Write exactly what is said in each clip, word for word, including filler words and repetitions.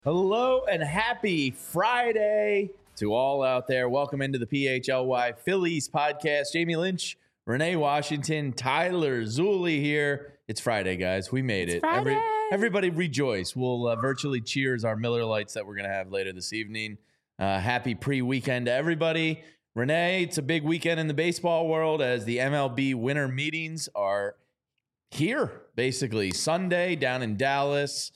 Hello and happy Friday to all out there. Welcome into the P H L Y Phillies podcast. Jamie Lynch, Renee Washington, Tyler Zulli here. It's Friday, guys. We made it's it. Friday. Every, everybody rejoice. We'll uh, virtually cheers our Miller Lights that we're going to have later this evening. Uh, happy pre-weekend to everybody. Renee, it's a big weekend in the baseball world as the M L B winter meetings are here, basically. Sunday down in Dallas.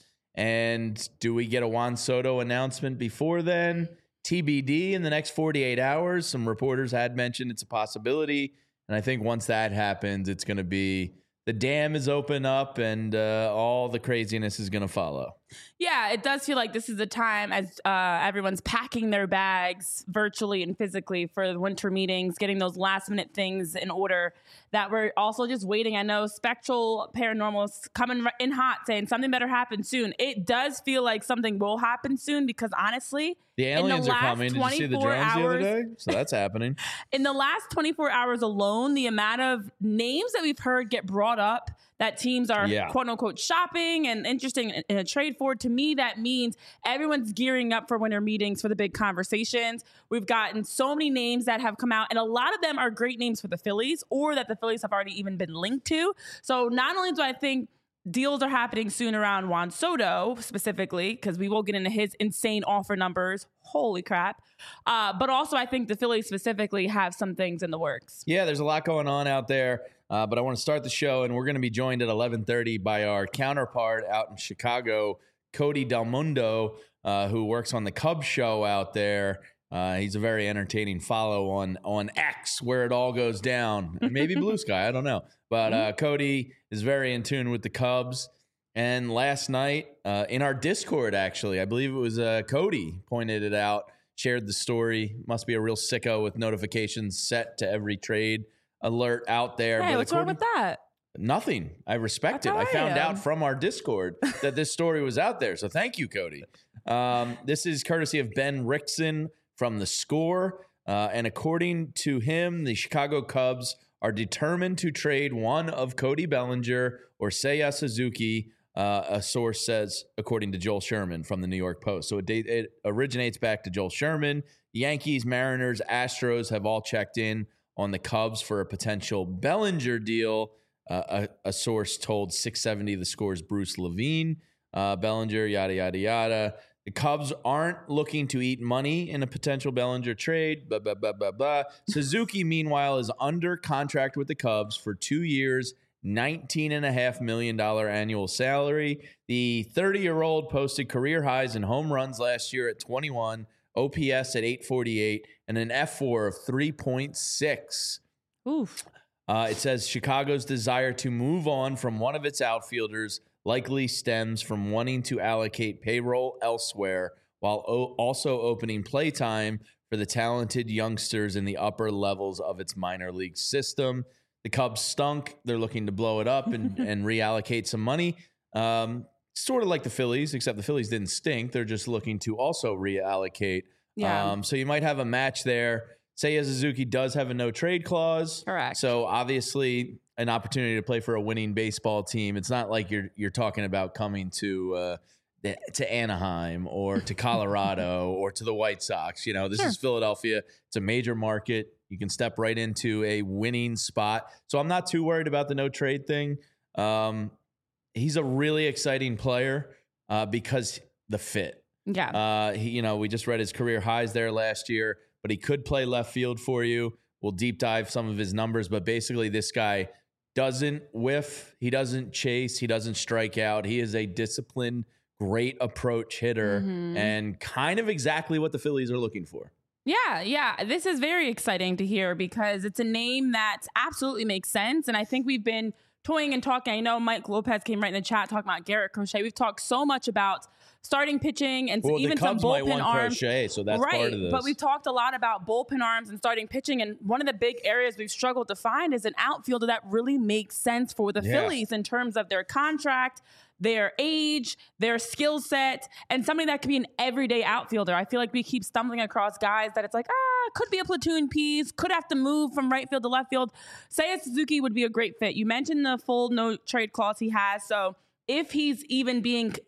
And do we get a Juan Soto announcement before then? T B D in the next forty-eight hours. Some reporters had mentioned it's a possibility. And I think once that happens, it's going to be the dam is open up and uh, all the craziness is going to follow. Yeah, it does feel like this is the time as uh, everyone's packing their bags virtually and physically for the winter meetings, getting those last minute things in order that we're also just waiting. I know Spectral Paranormal's coming in hot saying something better happen soon. It does feel like something will happen soon because honestly, the aliens the are coming. Did you see the drones hours, the other day? So that's happening. In the last twenty-four hours alone, the amount of names that we've heard get brought up that teams are yeah. quote unquote shopping and interesting in a trade for, to me, that means everyone's gearing up for winter meetings for the big conversations. We've gotten so many names that have come out, and a lot of them are great names for the Phillies or that the Phillies have already even been linked to. So not only do I think deals are happening soon around Juan Soto specifically, because we will get into his insane offer numbers. Holy crap. Uh, but also I think the Phillies specifically have some things in the works. Yeah, there's a lot going on out there. Uh, but I want to start the show, and we're going to be joined at eleven thirty by our counterpart out in Chicago, Cody Del Mundo, uh, who works on the Cubs show out there. Uh, he's a very entertaining follow on on X, where it all goes down. Maybe Blue Sky, I don't know. But uh, Cody is very in tune with the Cubs. And last night, uh, in our Discord, actually, I believe it was uh, Cody pointed it out, shared the story. Must be a real sicko with notifications set to every trade alert out there. Hey, but what's wrong with that? Nothing. I respect That's it. I found I out from our Discord that this story was out there. So thank you, Cody. Um, this is courtesy of Ben Rickson from The Score. Uh, and according to him, the Chicago Cubs are determined to trade one of Cody Bellinger or Seiya Suzuki, uh, a source says, according to Joel Sherman from the New York Post. So it, it originates back to Joel Sherman. Yankees, Mariners, Astros have all checked in on the Cubs for a potential Bellinger deal. Uh, a, a source told six seventy The Score's Bruce Levine. Uh, Bellinger, yada, yada, yada. The Cubs aren't looking to eat money in a potential Bellinger trade, blah, blah, blah, blah, blah. Suzuki, meanwhile, is under contract with the Cubs for two years, nineteen point five million dollars annual salary. The thirty-year-old posted career highs in home runs last year at twenty-one, O P S at eight forty-eight, and an F four of three point six. Oof. Uh, it says Chicago's desire to move on from one of its outfielders likely stems from wanting to allocate payroll elsewhere while o- also opening playtime for the talented youngsters in the upper levels of its minor league system. The Cubs stunk. They're looking to blow it up and, and reallocate some money. Um, sort of like the Phillies, except the Phillies didn't stink. They're just looking to also reallocate. Yeah. Um, so you might have a match there. Seiya Suzuki does have a no-trade clause. Correct. So obviously an opportunity to play for a winning baseball team. It's not like you're you're talking about coming to uh, to Anaheim or to Colorado or to the White Sox. You know, this sure. is Philadelphia. It's a major market. You can step right into a winning spot. So I'm not too worried about the no-trade thing. Um, he's a really exciting player uh, because the fit. Yeah. Uh, he, you know, we just read his career highs there last year, but he could play left field for you. We'll deep dive some of his numbers, but basically this guy doesn't whiff. He doesn't chase. He doesn't strike out. He is a disciplined, great approach hitter mm-hmm. and kind of exactly what the Phillies are looking for. Yeah, yeah. This is very exciting to hear because it's a name that absolutely makes sense. And I think we've been toying and talking. I know Mike Lopez came right in the chat talking about Garrett Crochet. We've talked so much about starting pitching and well, even the Cubs some might bullpen want arms. Crochet, so that's right, part of this. But we've talked a lot about bullpen arms and starting pitching. And one of the big areas we've struggled to find is an outfielder that really makes sense for the yeah. Phillies in terms of their contract, their age, their skill set, and somebody that could be an everyday outfielder. I feel like we keep stumbling across guys that it's like, ah, could be a platoon piece, could have to move from right field to left field. Seiya Suzuki would be a great fit. You mentioned the full no trade clause he has. So if he's even being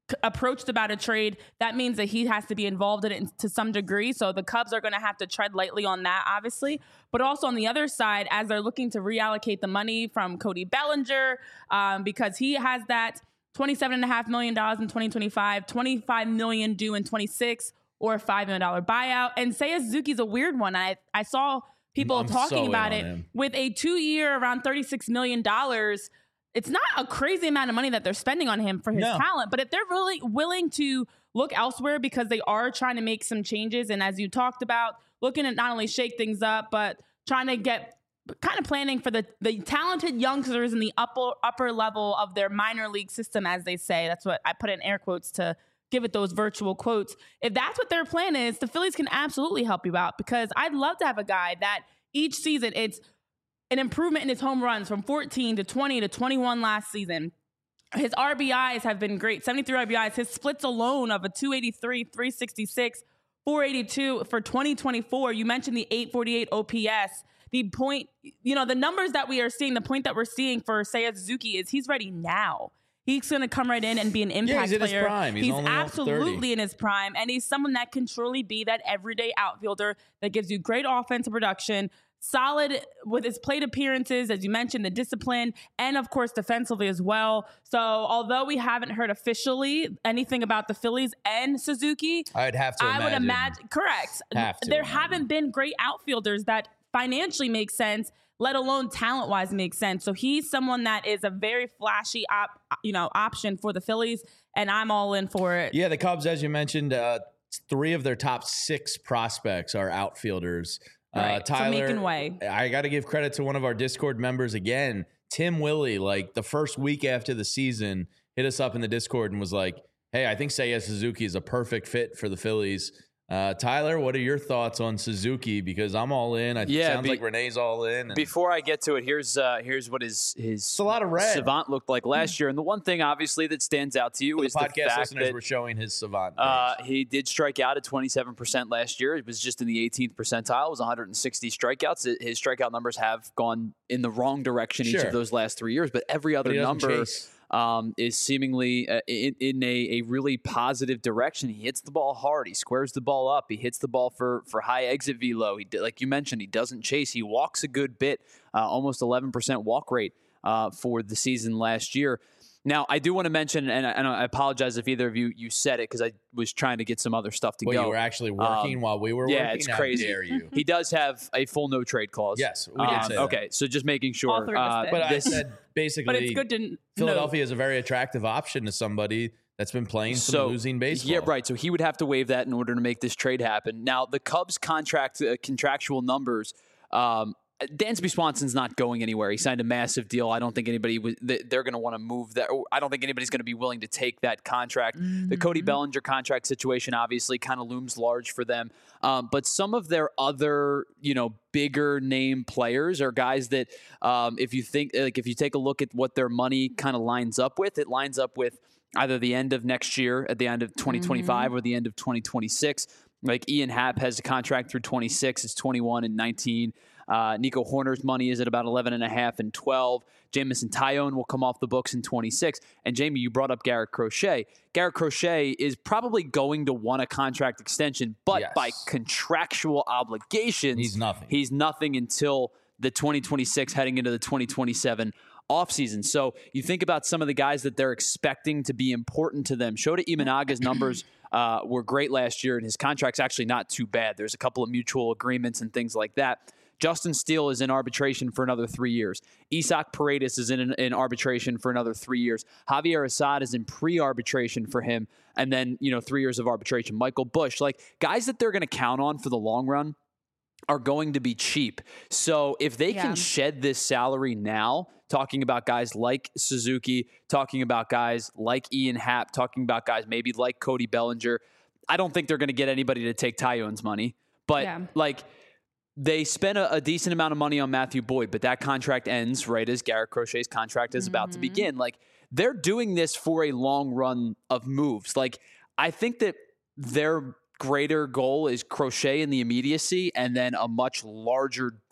approached about a trade, that means that he has to be involved in it to some degree. So the Cubs are going to have to tread lightly on that, obviously. But also on the other side, as they're looking to reallocate the money from Cody Bellinger, um, because he has that twenty-seven point five million dollars in twenty twenty-five, twenty-five million dollars due in twenty-six, or a five million dollars buyout. And Seiya Suzuki's a weird one. I, I saw people I'm talking so about it him. with a two-year, around thirty-six million dollars. It's not a crazy amount of money that they're spending on him for his no. talent, but if they're really willing to look elsewhere because they are trying to make some changes, and as you talked about, looking at not only shake things up, but trying to get kind of planning for the, the talented youngsters in the upper upper level of their minor league system, as they say. That's what I put in air quotes to give it those virtual quotes. If that's what their plan is, the Phillies can absolutely help you out, because I'd love to have a guy that each season it's an improvement in his home runs from fourteen to twenty to twenty-one last season. His R B Is have been great, seventy-three R B Is. His splits alone of a two eighty-three, three sixty-six, four eighty-two for twenty twenty-four. You mentioned the eight forty-eight O P S. The point, you know, the numbers that we are seeing, the point that we're seeing for Seiya Suzuki is he's ready now. He's going to come right in and be an impact yeah, he's in player. His prime. He's, he's only absolutely in his prime, and he's someone that can truly be that everyday outfielder that gives you great offensive production, solid with his plate appearances, as you mentioned, the discipline, and of course defensively as well. So although we haven't heard officially anything about the Phillies and Suzuki, I'd have to I imagine. would imagine, correct. Have to there imagine. haven't been great outfielders that financially make sense, let alone talent-wise make sense. So he's someone that is a very flashy op, you know, option for the Phillies, and I'm all in for it. Yeah, the Cubs, as you mentioned, uh, three of their top six prospects are outfielders. Right. Uh, Tyler, so making way. I got to give credit to one of our Discord members again, Tim Willie. Like the first week after the season, hit us up in the Discord and was like, "Hey, I think Seiya Suzuki is a perfect fit for the Phillies." Uh, Tyler, what are your thoughts on Suzuki? Because I'm all in. It yeah, sounds be, like Renee's all in. And before I get to it, here's uh, here's what his his it's a lot of red. Savant looked like last year. And the one thing, obviously, that stands out to you For is the the, podcast fact listeners that were showing his Savant. uh, he did strike out at twenty-seven percent last year. It was just in the eighteenth percentile. It was one hundred sixty strikeouts. His strikeout numbers have gone in the wrong direction Sure. each of those last three years, but every other but he doesn't number. chase. Um, is seemingly uh, in, in a, a really positive direction. He hits the ball hard. He squares the ball up. He hits the ball for for high exit velo. He like you mentioned, he doesn't chase. He walks a good bit, uh, almost eleven percent walk rate uh, for the season last year. Now, I do want to mention, and I, and I apologize if either of you you said it because I was trying to get some other stuff to well, go. you were actually working Um, while we were yeah, working. it's How crazy. dare you? He does have a full no trade clause. Yes, we did Um, say that. Okay, so just making sure. All three of us uh, did. But I this- said basically, But it's good to know. Philadelphia is a very attractive option to somebody that's been playing some So, losing baseball. Yeah, right. So he would have to waive that in order to make this trade happen. Now, the Cubs' contract uh, contractual numbers. Um, Dansby Swanson's not going anywhere. He signed a massive deal. I don't think anybody was, they're going to want to move that. I don't think anybody's going to be willing to take that contract. Mm-hmm. The Cody Bellinger contract situation obviously kind of looms large for them. Um, but some of their other, you know, bigger name players are guys that, um, if you think, like, if you take a look at what their money kind of lines up with, it lines up with either the end of next year, at the end of twenty twenty-five, mm-hmm. or the end of twenty twenty-six. Like Ian Happ has a contract through twenty-six. It's twenty-one and nineteen. Uh, Nico Horner's money is at about eleven and a half and twelve. Jamison Tyone will come off the books in twenty-six. And Jamie, you brought up Garrett Crochet. Garrett Crochet is probably going to want a contract extension, but yes. by contractual obligations, he's nothing. He's nothing until the twenty twenty-six, heading into the twenty twenty-seven offseason. So you think about some of the guys that they're expecting to be important to them. Shota Imanaga's numbers uh, were great last year, and his contract's actually not too bad. There's a couple of mutual agreements and things like that. Justin Steele is in arbitration for another three years. Isaac Paredes is in, in arbitration for another three years. Javier Assad is in pre-arbitration for him, and then, you know, three years of arbitration. Michael Busch, like guys that they're going to count on for the long run are going to be cheap. So if they yeah. can shed this salary now, talking about guys like Suzuki, talking about guys like Ian Happ, talking about guys maybe like Cody Bellinger, I don't think they're going to get anybody to take Tyone's money. But yeah. like, they spent a, a decent amount of money on Matthew Boyd, but that contract ends right as Garrett Crochet's contract is mm-hmm. about to begin. Like, they're doing this for a long run of moves. Like, I think that their greater goal is Crochet in the immediacy and then a much larger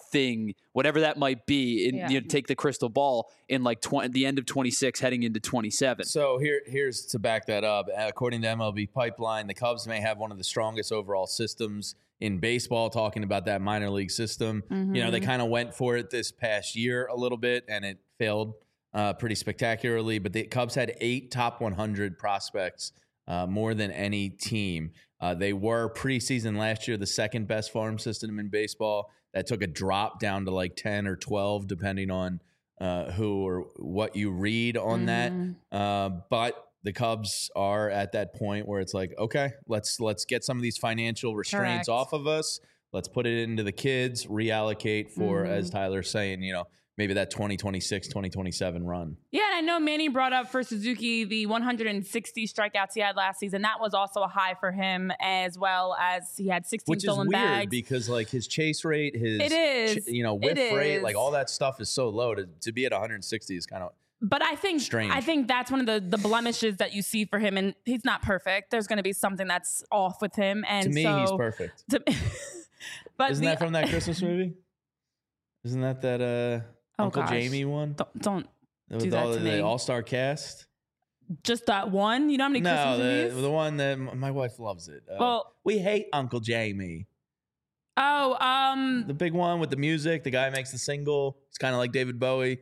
thing, whatever that might be, in, Yeah. you know, take the crystal ball in like twenty, the end of twenty-six heading into twenty-seven. So here, here's to back that up. According to M L B Pipeline, the Cubs may have one of the strongest overall systems in baseball, talking about that minor league system. Mm-hmm. You know, they kind of went for it this past year a little bit, and it failed uh, pretty spectacularly. But the Cubs had eight top one hundred prospects, uh, more than any team. Uh, they were preseason last year the second best farm system in baseball. That took a drop down to like ten or twelve, depending on uh, who or what you read on Mm-hmm. that. Uh, but the Cubs are at that point where it's like, okay, let's let's get some of these financial restraints Correct. off of us. Let's put it into the kids, reallocate for, Mm-hmm. as Tyler's saying, you know, maybe that twenty twenty-six, twenty twenty-seven run. Yeah, and I know Manny brought up for Suzuki the one hundred sixty strikeouts he had last season. That was also a high for him, as well as he had sixteen Which is stolen weird bags. because like his chase rate, his It is. ch- you know, whiff It rate, is. like all that stuff is so low. To, to be at one hundred sixty is kind of But I think Strange. I think that's one of the, the blemishes that you see for him, and he's not perfect. There's going to be something that's off with him, and to me so, he's perfect. to- but Isn't the, that from that Christmas movie? Isn't that that uh, Oh, Uncle gosh. Jamie one? don't, don't With do that all to the, me. the all-star cast? just that one. You know how many No, Christmas the, movies? the one that m- my wife loves it. Uh, Well- we hate Uncle Jamie. Oh, um, The big one with the music. The guy makes the single. It's kind of like David Bowie,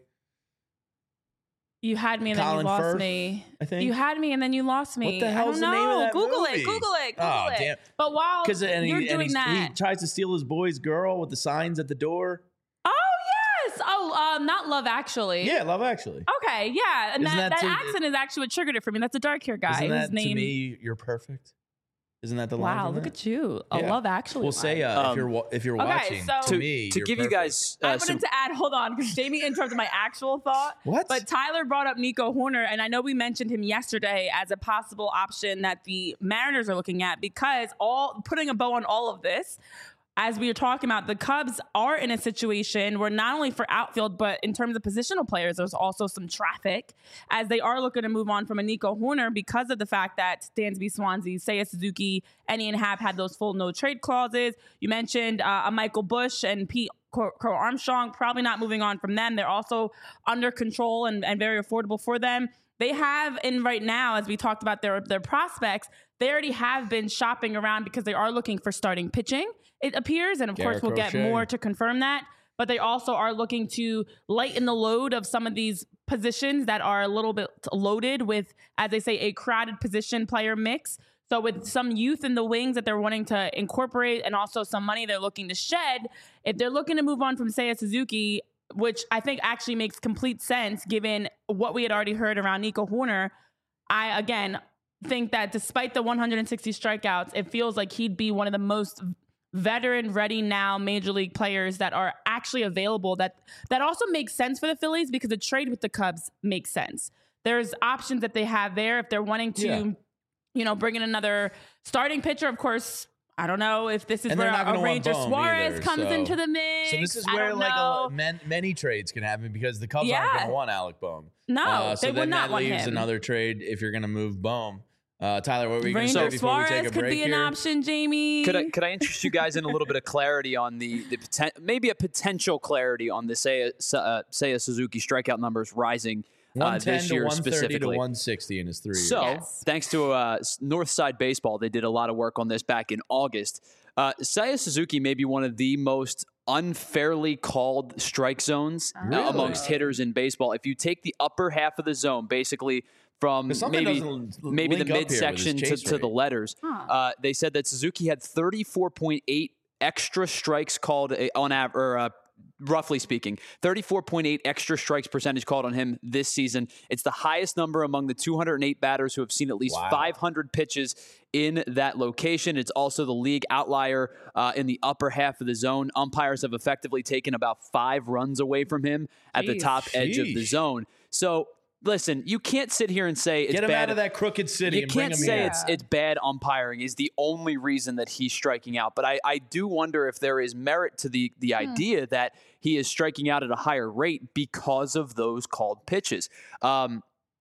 you had me and then Colin you lost Firth, me. I think. You had me and then you lost me. What the I hell's don't the name of know. that Google movie? it. Google it. Google Oh, it. damn. But while Because you're and, he, doing and he's- that, he tries to steal his boy's girl with the signs at the door. oh yes. Oh, um, not Love Actually. Yeah, Love Actually. Okay, yeah, and Isn't that, that that, to- accent is actually what triggered it for me. That's a dark hair guy Isn't that whose name. to me? You're perfect. Isn't that the line? Wow, from look that? at you. A Yeah. Love Actually. We'll say uh, if Um, you're wa- if you're okay, watching. so- to, to, me, to you're give you perfect. guys I uh, wanted some to add, hold on, because Jamie interrupted my actual thought. What? But Tyler brought up Nico Horner, and I know we mentioned him yesterday as a possible option that the Mariners are looking at, because all putting a bow on all of this, as we were talking about, the Cubs are in a situation where not only for outfield, but in terms of positional players, there's also some traffic, as they are looking to move on from a Nico Horner because of the fact that Dansby Swansea, Seiya Suzuki, and Ian Happ had those full no trade clauses. You mentioned uh, a Michael Busch and Pete Crow Armstrong, probably not moving on from them. They're also under control and, and very affordable for them. They have, and right now, as we talked about their, their prospects, they already have been shopping around because they are looking for starting pitching, it appears. And of Garrett course, we'll get Crochet. more to confirm that. But they also are looking to lighten the load of some of these positions that are a little bit loaded with, as they say, a crowded position player mix. So with some youth in the wings that they're wanting to incorporate and also some money they're looking to shed, if they're looking to move on from Seiya Suzuki, which I think actually makes complete sense given what we had already heard around Nico Horner, I, again, think that despite the one hundred sixty strikeouts, it feels like he'd be one of the most veteran ready now major league players that are actually available, that that also makes sense for the Phillies because the trade with the Cubs makes sense. There's options that they have there if they're wanting to, Yeah. you know, bring in another starting pitcher. Of course, I don't know if this is And where they're not gonna a want Ranger Bohm Suarez either, comes so- into the mix. So this is I where don't like know. a, man, many trades can happen because the Cubs Yeah. aren't going to want Alec Bohm. No, Uh, so they then would not that want leaves him. another trade if you're going to move Bohm. Uh, Tyler, what were you going to say Ranger before we take Suarez a could break be an here? option, Jamie. Could I could I interest you guys in a little bit of clarity on the the poten- maybe a potential clarity on the Seiya, uh, Seiya Suzuki strikeout numbers rising uh, one ten this to year one thirty to specifically? one sixty in his three years. So, Yes. thanks to uh, Northside Baseball, they did a lot of work on this back in August. Uh, Seiya Suzuki may be one of the most unfairly called strike zones uh, Really? amongst hitters in baseball. If you take the upper half of the zone, basically from 'Cause something maybe doesn't l- maybe the link up here with his midsection to, chase to the rate. letters, Huh. uh, they said that Suzuki had thirty-four point eight extra strikes called uh, on average, or uh, roughly speaking, thirty-four point eight extra strikes percentage called on him this season. It's the highest number among the two hundred eight batters who have seen at least Wow. five hundred pitches in that location. It's also the league outlier uh, in the upper half of the zone. Umpires have effectively taken about five runs away from him at the Jeez. top edge of the Sheesh. zone. So, listen, you can't sit here and say it's Get him bad. out of that crooked city You and bring can't him say here. it's it's bad umpiring is the only reason that he's striking out. But I, I do wonder if there is merit to the the idea that he is striking out at a higher rate because of those called pitches. Um,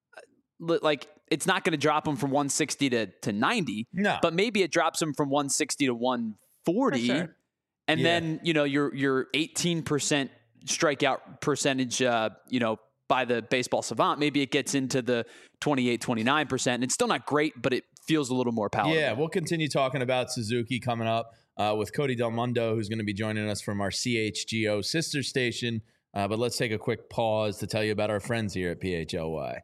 li- like it's not going to drop him from one sixty to, to ninety, No. but maybe it drops him from one sixty to one forty. For sure. And Yeah. then, you know, your your eighteen percent strikeout percentage, uh, you know, by the Baseball Savant, maybe it gets into the twenty-eight, twenty-nine percent. And it's still not great, but it feels a little more palatable. Yeah, we'll continue talking about Suzuki coming up uh, with Cody Del Mundo, who's going to be joining us from our C H G O sister station. Uh, but let's take a quick pause to tell you about our friends here at P H L Y.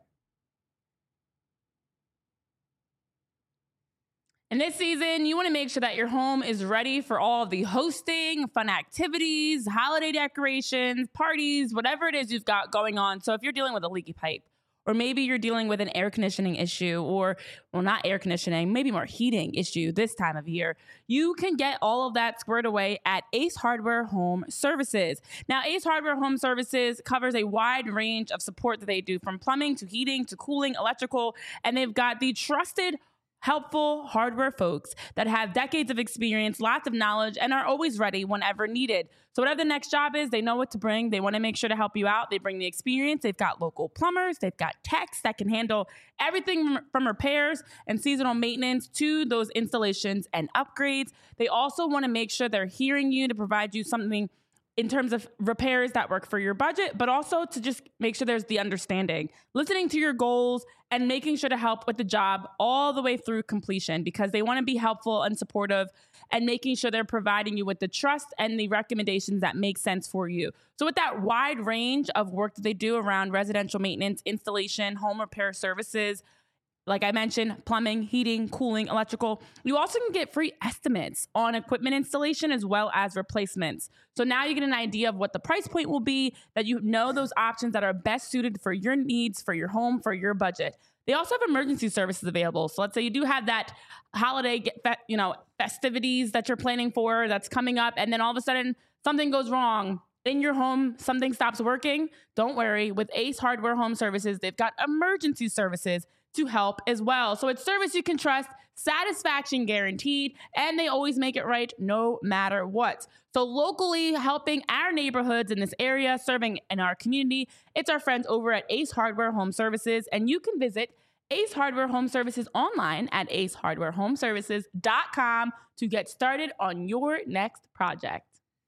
And this season, you want to make sure that your home is ready for all of the hosting, fun activities, holiday decorations, parties, whatever it is you've got going on. So if you're dealing with a leaky pipe, or maybe you're dealing with an air conditioning issue, or, well, not air conditioning, maybe more heating issue this time of year, you can get all of that squared away at Ace Hardware Home Services. Now, Ace Hardware Home Services covers a wide range of support that they do, from plumbing to heating to cooling, electrical, and they've got the trusted, helpful hardware folks that have decades of experience, lots of knowledge, and are always ready whenever needed. So whatever the next job is, they know what to bring. They want to make sure to help you out. They bring the experience. They've got local plumbers. They've got techs that can handle everything from repairs and seasonal maintenance to those installations and upgrades. They also want to make sure they're hearing you to provide you something in terms of repairs that work for your budget, but also to just make sure there's the understanding, listening to your goals, and making sure to help with the job all the way through completion, because they want to be helpful and supportive and making sure they're providing you with the trust and the recommendations that make sense for you. So with that wide range of work that they do around residential maintenance, installation, home repair services, like I mentioned, plumbing, heating, cooling, electrical. You also can get free estimates on equipment installation as well as replacements. So now you get an idea of what the price point will be, that you know those options that are best suited for your needs, for your home, for your budget. They also have emergency services available. So let's say you do have that holiday, you know, festivities that you're planning for that's coming up, and then all of a sudden something goes wrong in your home, something stops working. Don't worry. With Ace Hardware Home Services, they've got emergency services to help as well. So it's service you can trust, satisfaction guaranteed, and they always make it right no matter what. So locally helping our neighborhoods in this area, serving in our community, it's our friends over at Ace Hardware Home Services, and you can visit Ace Hardware Home Services online at ace hardware home services dot com to get started on your next project.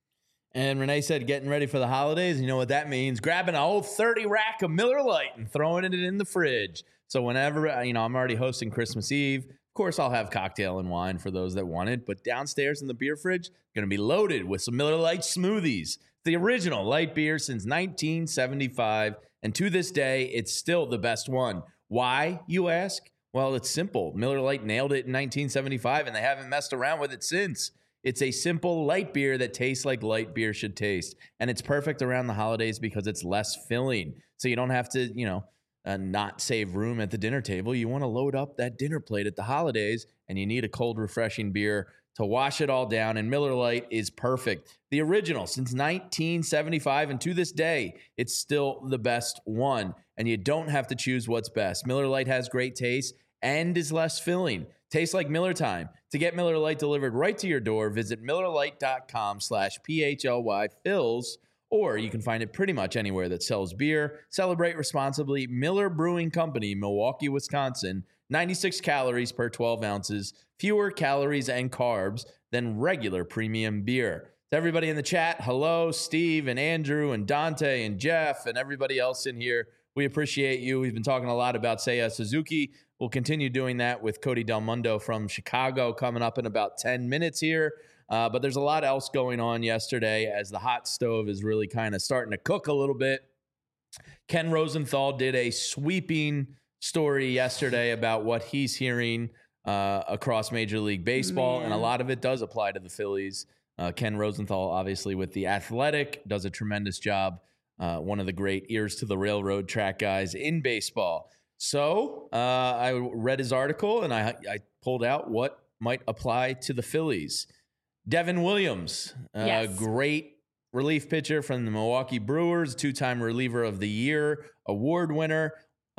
And Renee said, getting ready for the holidays. You know what that means? Grabbing an old thirty rack of Miller Lite and throwing it in the fridge. So whenever, you know, I'm already hosting Christmas Eve. Of course, I'll have cocktail and wine for those that want it. But downstairs in the beer fridge, going to be loaded with some Miller Lite smoothies. The original light beer since nineteen seventy-five. And to this day, it's still the best one. Why, you ask? Well, it's simple. Miller Lite nailed it in nineteen seventy-five, and they haven't messed around with it since. It's a simple light beer that tastes like light beer should taste. And it's perfect around the holidays because it's less filling. So you don't have to, you know, uh, not save room at the dinner table. You want to load up that dinner plate at the holidays, and you need a cold, refreshing beer to wash it all down. And Miller Lite is perfect. The original since nineteen seventy-five, and to this day, it's still the best one. And you don't have to choose what's best. Miller Lite has great taste and is less filling. Tastes like Miller time. To get Miller Lite delivered right to your door, visit millerlite.com slash PHLY fills, or you can find it pretty much anywhere that sells beer. Celebrate responsibly. Miller Brewing Company, Milwaukee, Wisconsin. ninety-six calories per twelve ounces. Fewer calories and carbs than regular premium beer. To everybody in the chat, hello, Steve and Andrew and Dante and Jeff and everybody else in here. We appreciate you. We've been talking a lot about Seiya Suzuki. We'll continue doing that with Cody Del Mundo from Chicago coming up in about ten minutes here. Uh, but there's a lot else going on yesterday as the hot stove is really kind of starting to cook a little bit. Ken Rosenthal did a sweeping story yesterday about what he's hearing uh, across Major League Baseball, Man. and a lot of it does apply to the Phillies. Uh, Ken Rosenthal, obviously with The Athletic, does a tremendous job. Uh, one of the great ears to the railroad track guys in baseball. So uh, I read his article, and I, I pulled out what might apply to the Phillies. Devin Williams, a yes. great relief pitcher from the Milwaukee Brewers, two-time reliever of the year, award winner.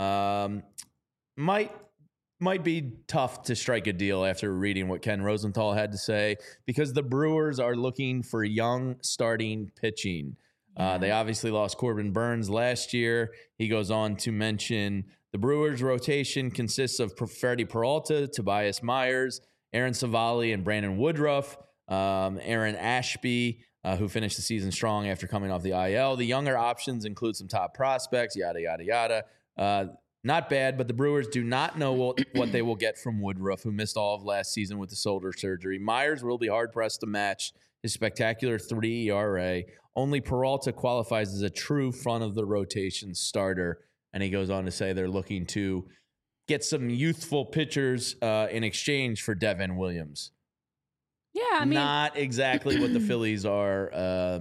Um, might might be tough to strike a deal after reading what Ken Rosenthal had to say, because the Brewers are looking for young starting pitching. Uh, they obviously lost Corbin Burns last year. He goes on to mention the Brewers' rotation consists of Freddie Peralta, Tobias Myers, Aaron Savali, and Brandon Woodruff. um, Aaron Ashby, uh, who finished the season strong after coming off the I L. The younger options include some top prospects, yada, yada, yada. Uh, not bad, but the Brewers do not know what, what they will get from Woodruff, who missed all of last season with the shoulder surgery. Myers will be hard-pressed to match his spectacular three E R A. Only Peralta qualifies as a true front-of-the-rotation starter. And he goes on to say they're looking to get some youthful pitchers uh, in exchange for Devin Williams. Yeah, I mean, not exactly what the Phillies are uh,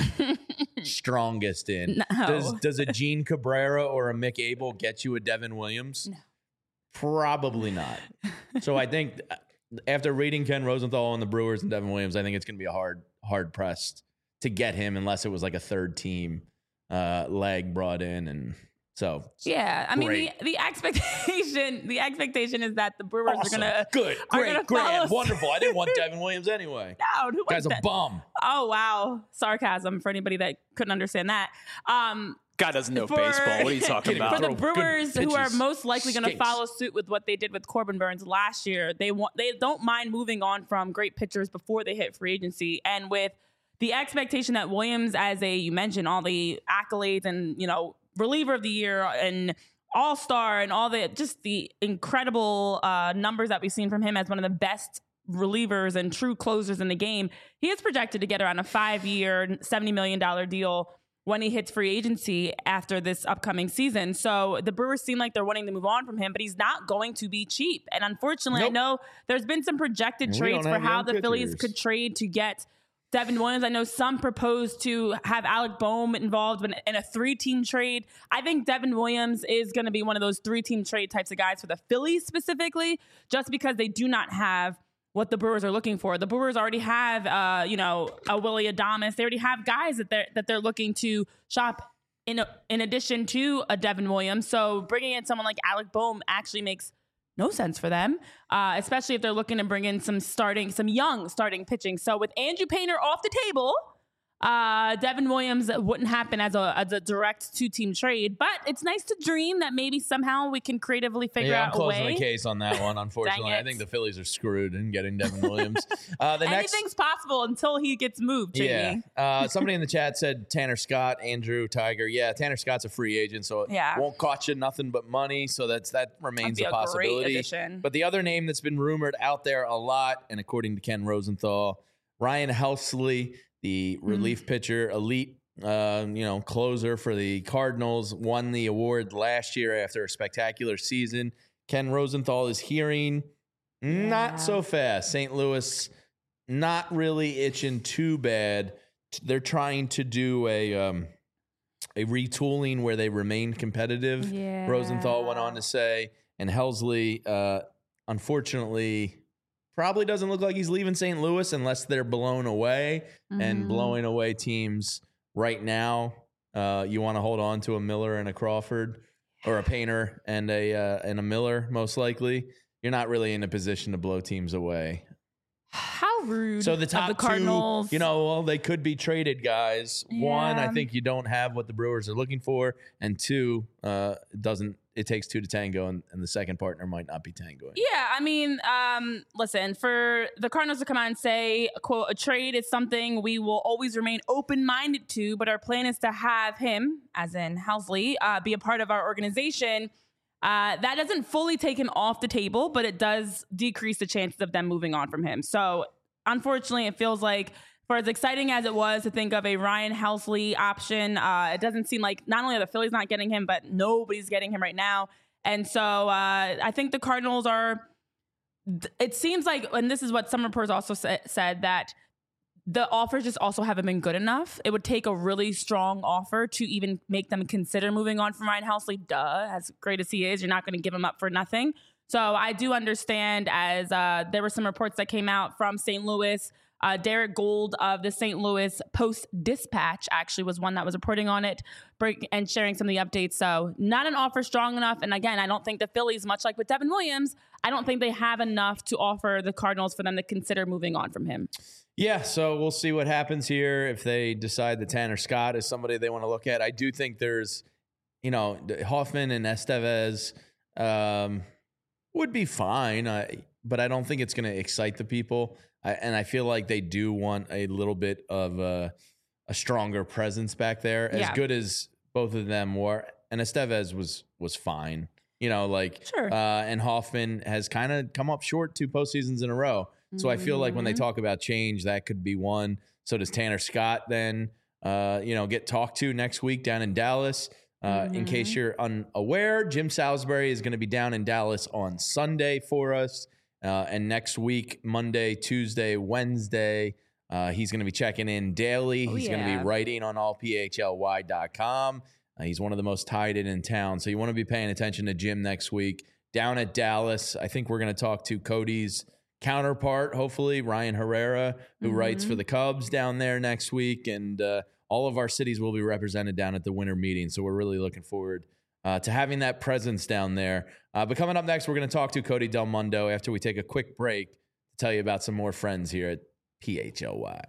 strongest in. No. Does does a Gene Cabrera or a Mick Abel get you a Devin Williams? No. Probably not. So I think after reading Ken Rosenthal and the Brewers and Devin Williams, I think it's going to be a hard hard pressed to get him unless it was like a third team uh, leg brought in. And so yeah, I mean great. the, the expectation the expectation is that the Brewers awesome. are gonna good, are great, gonna grand, follow- wonderful. I didn't want Devin Williams anyway. No, who guy's a that? bum. Oh wow, sarcasm for anybody that couldn't understand that. Um, Guy doesn't know for, baseball. What are you talking about? For the Throw Brewers, good who are pitches. most likely going to Stinks. follow suit with what they did with Corbin Burns last year, they want they don't mind moving on from great pitchers before they hit free agency, and with the expectation that Williams, as a you mentioned all the accolades and you know reliever of the year and all-star and all the just the incredible uh, numbers that we've seen from him as one of the best relievers and true closers in the game, he is projected to get around a five-year, seventy million dollars deal when he hits free agency after this upcoming season. So the Brewers seem like they're wanting to move on from him, but he's not going to be cheap. And unfortunately, Nope. I know there's been some projected We trades don't for have how young the Phillies pitchers. could trade to get Devin Williams. I know some proposed to have Alec Boehm involved in, in a three-team trade. I think Devin Williams is going to be one of those three-team trade types of guys for the Phillies specifically, just because they do not have what the Brewers are looking for. The Brewers already have, uh, you know, a Willie Adames. They already have guys that they're that they're looking to shop in a, in addition to a Devin Williams. So bringing in someone like Alec Boehm actually makes no sense for them, uh, especially if they're looking to bring in some starting, some young starting pitching. So with Andrew Painter off the table, uh, Devin Williams wouldn't happen as a as a direct two-team trade. But it's nice to dream that maybe somehow we can creatively figure yeah, I'm out a closing way. the case on that one. Unfortunately, Dang I it. think the Phillies are screwed in getting Devin Williams. Uh, the next, Anything's possible until he gets moved, Jamie. yeah. Uh, somebody in the chat said Tanner Scott, Andrew Tiger. Yeah, Tanner Scott's a free agent, so Yeah. it won't cost you nothing but money. So that's that remains That'd be a a great possibility. addition. But the other name that's been rumored out there a lot, and according to Ken Rosenthal, Ryan Helsley, the relief pitcher, elite, uh, you know, closer for the Cardinals, won the award last year after a spectacular season. Ken Rosenthal is hearing Yeah. not so fast. Saint Louis not really itching too bad. They're trying to do a um, a retooling where they remain competitive. Yeah. Rosenthal went on to say, and Helsley, uh, unfortunately, probably doesn't look like he's leaving Saint Louis unless they're blown away. And Mhm. blowing away teams right now, uh, you want to hold on to a Miller and a Crawford, or a Painter and a uh, and a Miller, most likely. You're not really in a position to blow teams away. How rude. So the of top the Cardinals. two, you know, well, they could be traded guys. One, I Yeah. think you don't have what the Brewers are looking for, and two, uh, it doesn't. It takes two to tango, and, and the second partner might not be tangoing. Yeah, I mean, um, listen, for the Cardinals to come out and say, quote, a trade is something we will always remain open-minded to, but our plan is to have him, as in Helsley, uh, be a part of our organization. Uh, that doesn't fully take him off the table, but it does decrease the chances of them moving on from him. So, unfortunately, it feels like for as exciting as it was to think of a Ryan Helsley option, uh, it doesn't seem like not only are the Phillies not getting him, but nobody's getting him right now. And so uh, I think the Cardinals are, it seems like, and this is what some reports also sa- said, that the offers just also haven't been good enough. It would take a really strong offer to even make them consider moving on from Ryan Helsley. Duh, as great as he is, you're not going to give him up for nothing. So I do understand, as uh, there were some reports that came out from Saint Louis. Uh, Derek Gold of the Saint Louis Post-Dispatch actually was one that was reporting on it break, and sharing some of the updates. So not an offer strong enough. And again, I don't think the Phillies, much like with Devin Williams, I don't think they have enough to offer the Cardinals for them to consider moving on from him. Yeah, so we'll see what happens here if they decide that Tanner Scott is somebody they want to look at. I do think there's, you know, Hoffman and Estevez um, would be fine, uh, but I don't think it's going to excite the people. I, and I feel like they do want a little bit of a, a stronger presence back there. As Yeah. good as both of them were, and Estevez was was fine. You know, like, sure. uh, and Hoffman has kind of come up short two postseasons in a row. So mm-hmm. I feel like when they talk about change, that could be one. So does Tanner Scott then, uh, you know, get talked to next week down in Dallas? Uh, mm-hmm. In case you're unaware, Jim Salisbury is going to be down in Dallas on Sunday for us. Uh, and next week, Monday, Tuesday, Wednesday, uh, he's going to be checking in daily. Oh, he's yeah. going to be writing on all p h l y dot com. Uh, he's one of the most tied in in town. So you want to be paying attention to Jim next week. Down at Dallas, I think we're going to talk to Cody's counterpart, hopefully, Ryan Herrera, who mm-hmm. writes for the Cubs down there next week. And uh, all of our cities will be represented down at the winter meeting. So we're really looking forward uh, to having that presence down there. Uh, but coming up next, we're going to talk to Cody Del Mundo after we take a quick break to tell you about some more friends here at P H L Y.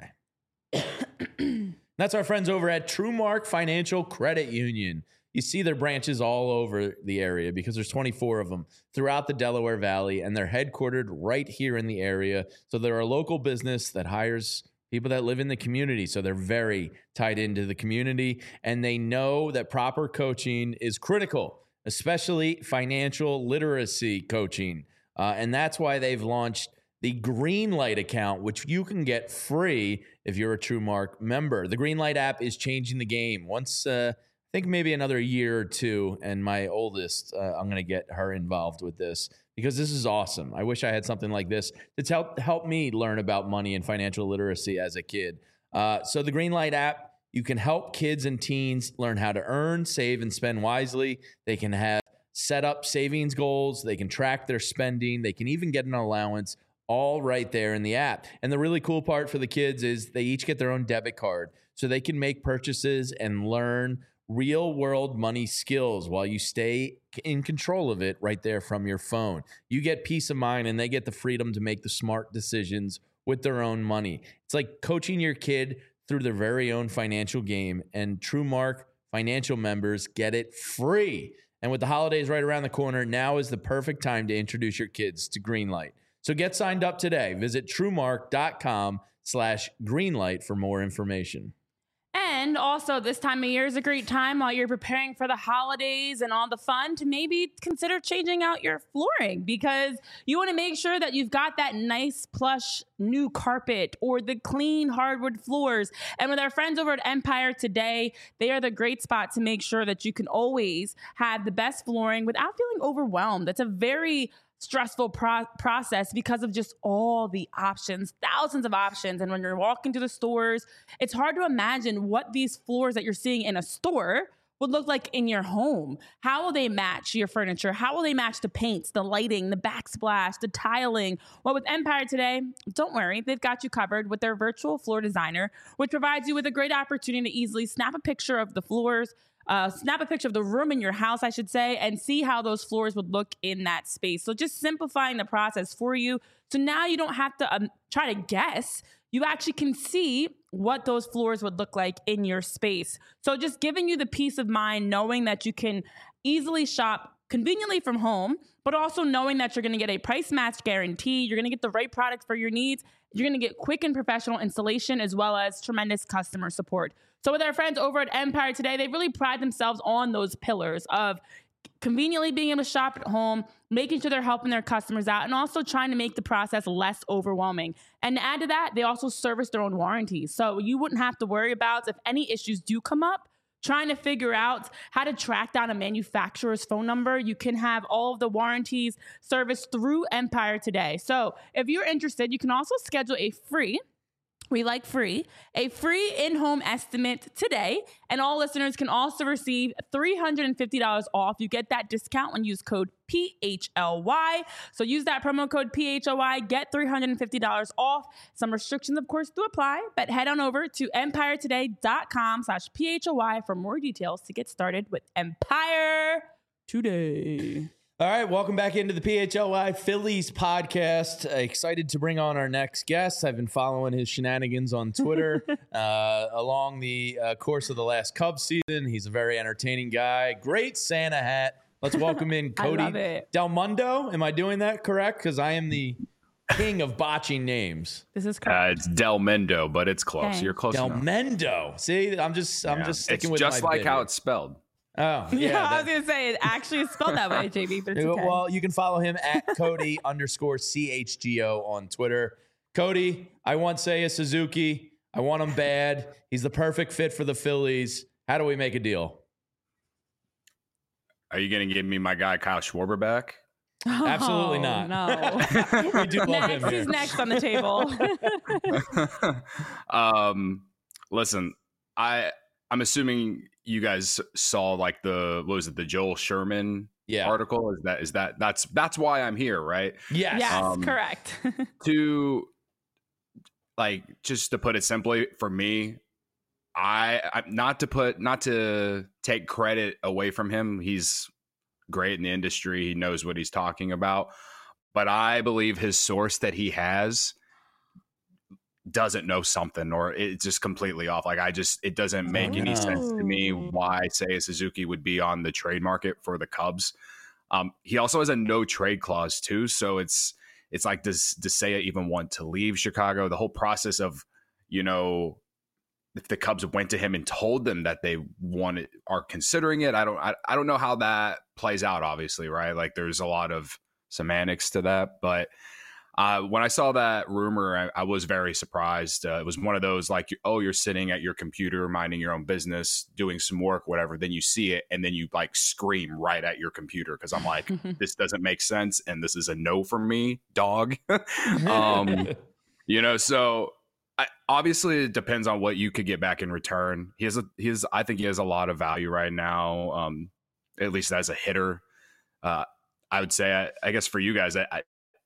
That's our friends over at TrueMark Financial Credit Union. You see their branches all over the area because there's twenty-four of them throughout the Delaware Valley, and they're headquartered right here in the area. So they're a local business that hires people that live in the community. So they're very tied into the community, and they know that proper coaching is critical, especially financial literacy coaching. Uh, and that's why they've launched the Greenlight account, which you can get free if you're a TrueMark member. The Greenlight app is changing the game. Once, uh, I think maybe another year or two, and my oldest, uh, I'm going to get her involved with this because this is awesome. I wish I had something like this to help help me learn about money and financial literacy as a kid. Uh, so the Greenlight app, you can help kids and teens learn how to earn, save, and spend wisely. They can have set up savings goals. They can track their spending. They can even get an allowance, all right there in the app. And the really cool part for the kids is they each get their own debit card, so they can make purchases and learn real world money skills while you stay in control of it right there from your phone. You get peace of mind, and they get the freedom to make the smart decisions with their own money. It's like coaching your kid through their very own financial game, and TrueMark Financial members get it free. And with the holidays right around the corner, now is the perfect time to introduce your kids to Greenlight. So get signed up today. Visit TrueMark.com slash Greenlight for more information. And also, this time of year is a great time while you're preparing for the holidays and all the fun to maybe consider changing out your flooring, because you want to make sure that you've got that nice plush new carpet or the clean hardwood floors. And with our friends over at Empire Today, they are the great spot to make sure that you can always have the best flooring without feeling overwhelmed. That's a very stressful pro- process because of just all the options, thousands of options. And when you're walking to the stores, it's hard to imagine what these floors that you're seeing in a store would look like in your home. How will they match your furniture? How will they match the paints, the lighting, the backsplash, the tiling? Well, with Empire Today, don't worry, they've got you covered with their virtual floor designer, which provides you with a great opportunity to easily snap a picture of the floors, Uh, snap a picture of the room in your house, I should say, and see how those floors would look in that space. So just simplifying the process for you. So now you don't have to um, try to guess. You actually can see what those floors would look like in your space. So just giving you the peace of mind, knowing that you can easily shop conveniently from home, but also knowing that you're going to get a price match guarantee. You're going to get the right product for your needs. You're going to get quick and professional installation as well as tremendous customer support. So with our friends over at Empire Today, they really pride themselves on those pillars of conveniently being able to shop at home, making sure they're helping their customers out, and also trying to make the process less overwhelming. And to add to that, they also service their own warranties. So you wouldn't have to worry about if any issues do come up, trying to figure out how to track down a manufacturer's phone number. You can have all of the warranties serviced through Empire Today. So if you're interested, you can also schedule a free We like free, a free in-home estimate today. And all listeners can also receive three hundred fifty dollars off. You get that discount when you use code P H L Y. So use that promo code P H L Y, get three hundred fifty dollars off. Some restrictions, of course, do apply, but head on over to empiretoday.com slash P H L Y for more details to get started with Empire Today. All right, welcome back into the P H L Y Phillies podcast. Uh, excited to bring on our next guest. I've been following his shenanigans on Twitter uh, along the uh, course of the last Cubs season. He's a very entertaining guy. Great Santa hat. Let's welcome in Cody Del Mundo. Am I doing that correct? Because I am the king of botching names. This is correct. Uh, it's Del Mendo, but it's close. Okay. You're close Del enough. Mendo. See, I'm just, I'm Yeah. just sticking it's with just my like bit how here. it's spelled. Oh, yeah. Yeah, I that- was gonna say it actually is spelled that way, J B. But it's okay. Well, you can follow him at Cody underscore C H G O on Twitter. Cody, I want Seiya Suzuki. I want him bad. He's the perfect fit for the Phillies. How do we make a deal? Are you going to give me my guy Kyle Schwarber back? Absolutely Oh, not. No. We do love him Next, here. he's next on the table. um, listen, I I'm assuming you guys saw like the what was it the Joel Sherman Yeah. article? Is that is that that's that's why I'm here, right? Yes. Yes, Um, correct. To like just to put it simply, for me, I, I not to put not to take credit away from him. He's great in the industry. He knows what he's talking about. But I believe his source that he has doesn't know something, or it's just completely off. Like I just, it doesn't make any Oh. sense to me why Seiya Suzuki would be on the trade market for the Cubs. Um, he also has a no trade clause too. So it's, it's like, does, does Seiya even want to leave Chicago? The whole process of, you know, if the Cubs went to him and told them that they wanted, are considering it. I don't, I, I don't know how that plays out, obviously. Right. Like there's a lot of semantics to that, but uh, when I saw that rumor, I, I was very surprised. Uh, it was one of those like, oh, you're sitting at your computer, minding your own business, doing some work, whatever. Then you see it and then you like scream right at your computer. Cause I'm like, this doesn't make sense. And this is a no from me, dog. um, you know, so I, obviously it depends on what you could get back in return. He has a, he has, I think he has a lot of value right now. Um, at least as a hitter. Uh, I would say, I, I guess for you guys, I, I,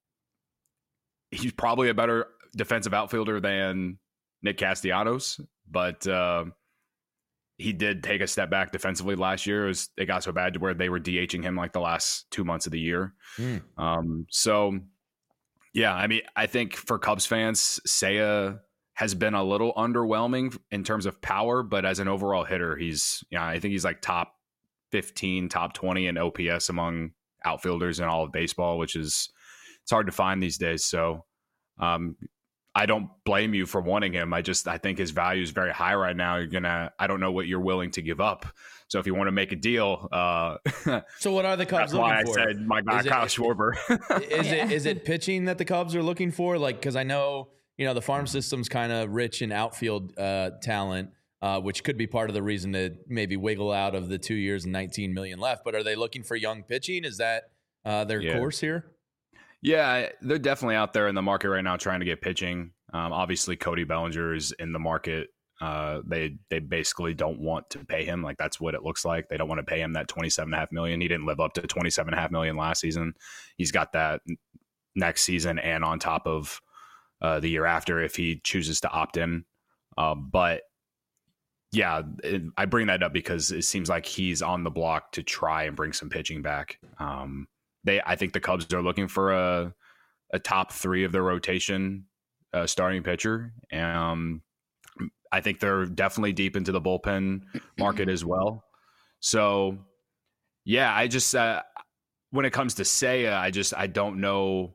he's probably a better defensive outfielder than Nick Castellanos, but uh, he did take a step back defensively last year. It, was, it got so bad to where they were DHing him like the last two months of the year. Mm. Um, so, yeah, I mean, I think for Cubs fans, Seiya has been a little underwhelming in terms of power, but as an overall hitter, he's, yeah, I think he's like top fifteen, top twenty in O P S among outfielders in all of baseball, which is, it's hard to find these days. So um, I don't blame you for wanting him. I just, I think his value is very high right now. You're going to, I don't know what you're willing to give up. So if you want to make a deal, uh, So what are the Cubs that's why looking for? I said my guy, Is it- Kyle Schwarber. Is Yeah. it is it pitching that the Cubs are looking for? Like, because I know, you know, the farm system's kind of rich in outfield uh, talent, uh, which could be part of the reason to maybe wiggle out of the two years and nineteen million left. But are they looking for young pitching? Is that uh, their Yeah. course here? Yeah, they're definitely out there in the market right now trying to get pitching. Um, obviously, Cody Bellinger is in the market. Uh, they they basically don't want to pay him. Like that's what it looks like. They don't want to pay him that twenty-seven and a half million. He didn't live up to twenty-seven and a half million last season. He's got that next season and on top of uh, the year after if he chooses to opt in. Uh, but yeah, it, I bring that up because it seems like he's on the block to try and bring some pitching back. Um, they, I think the Cubs are looking for a a top three of their rotation uh, starting pitcher. Um, I think they're definitely deep into the bullpen market as well. So, yeah, I just uh, when it comes to Seiya, I just I don't know.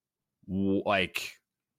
Like,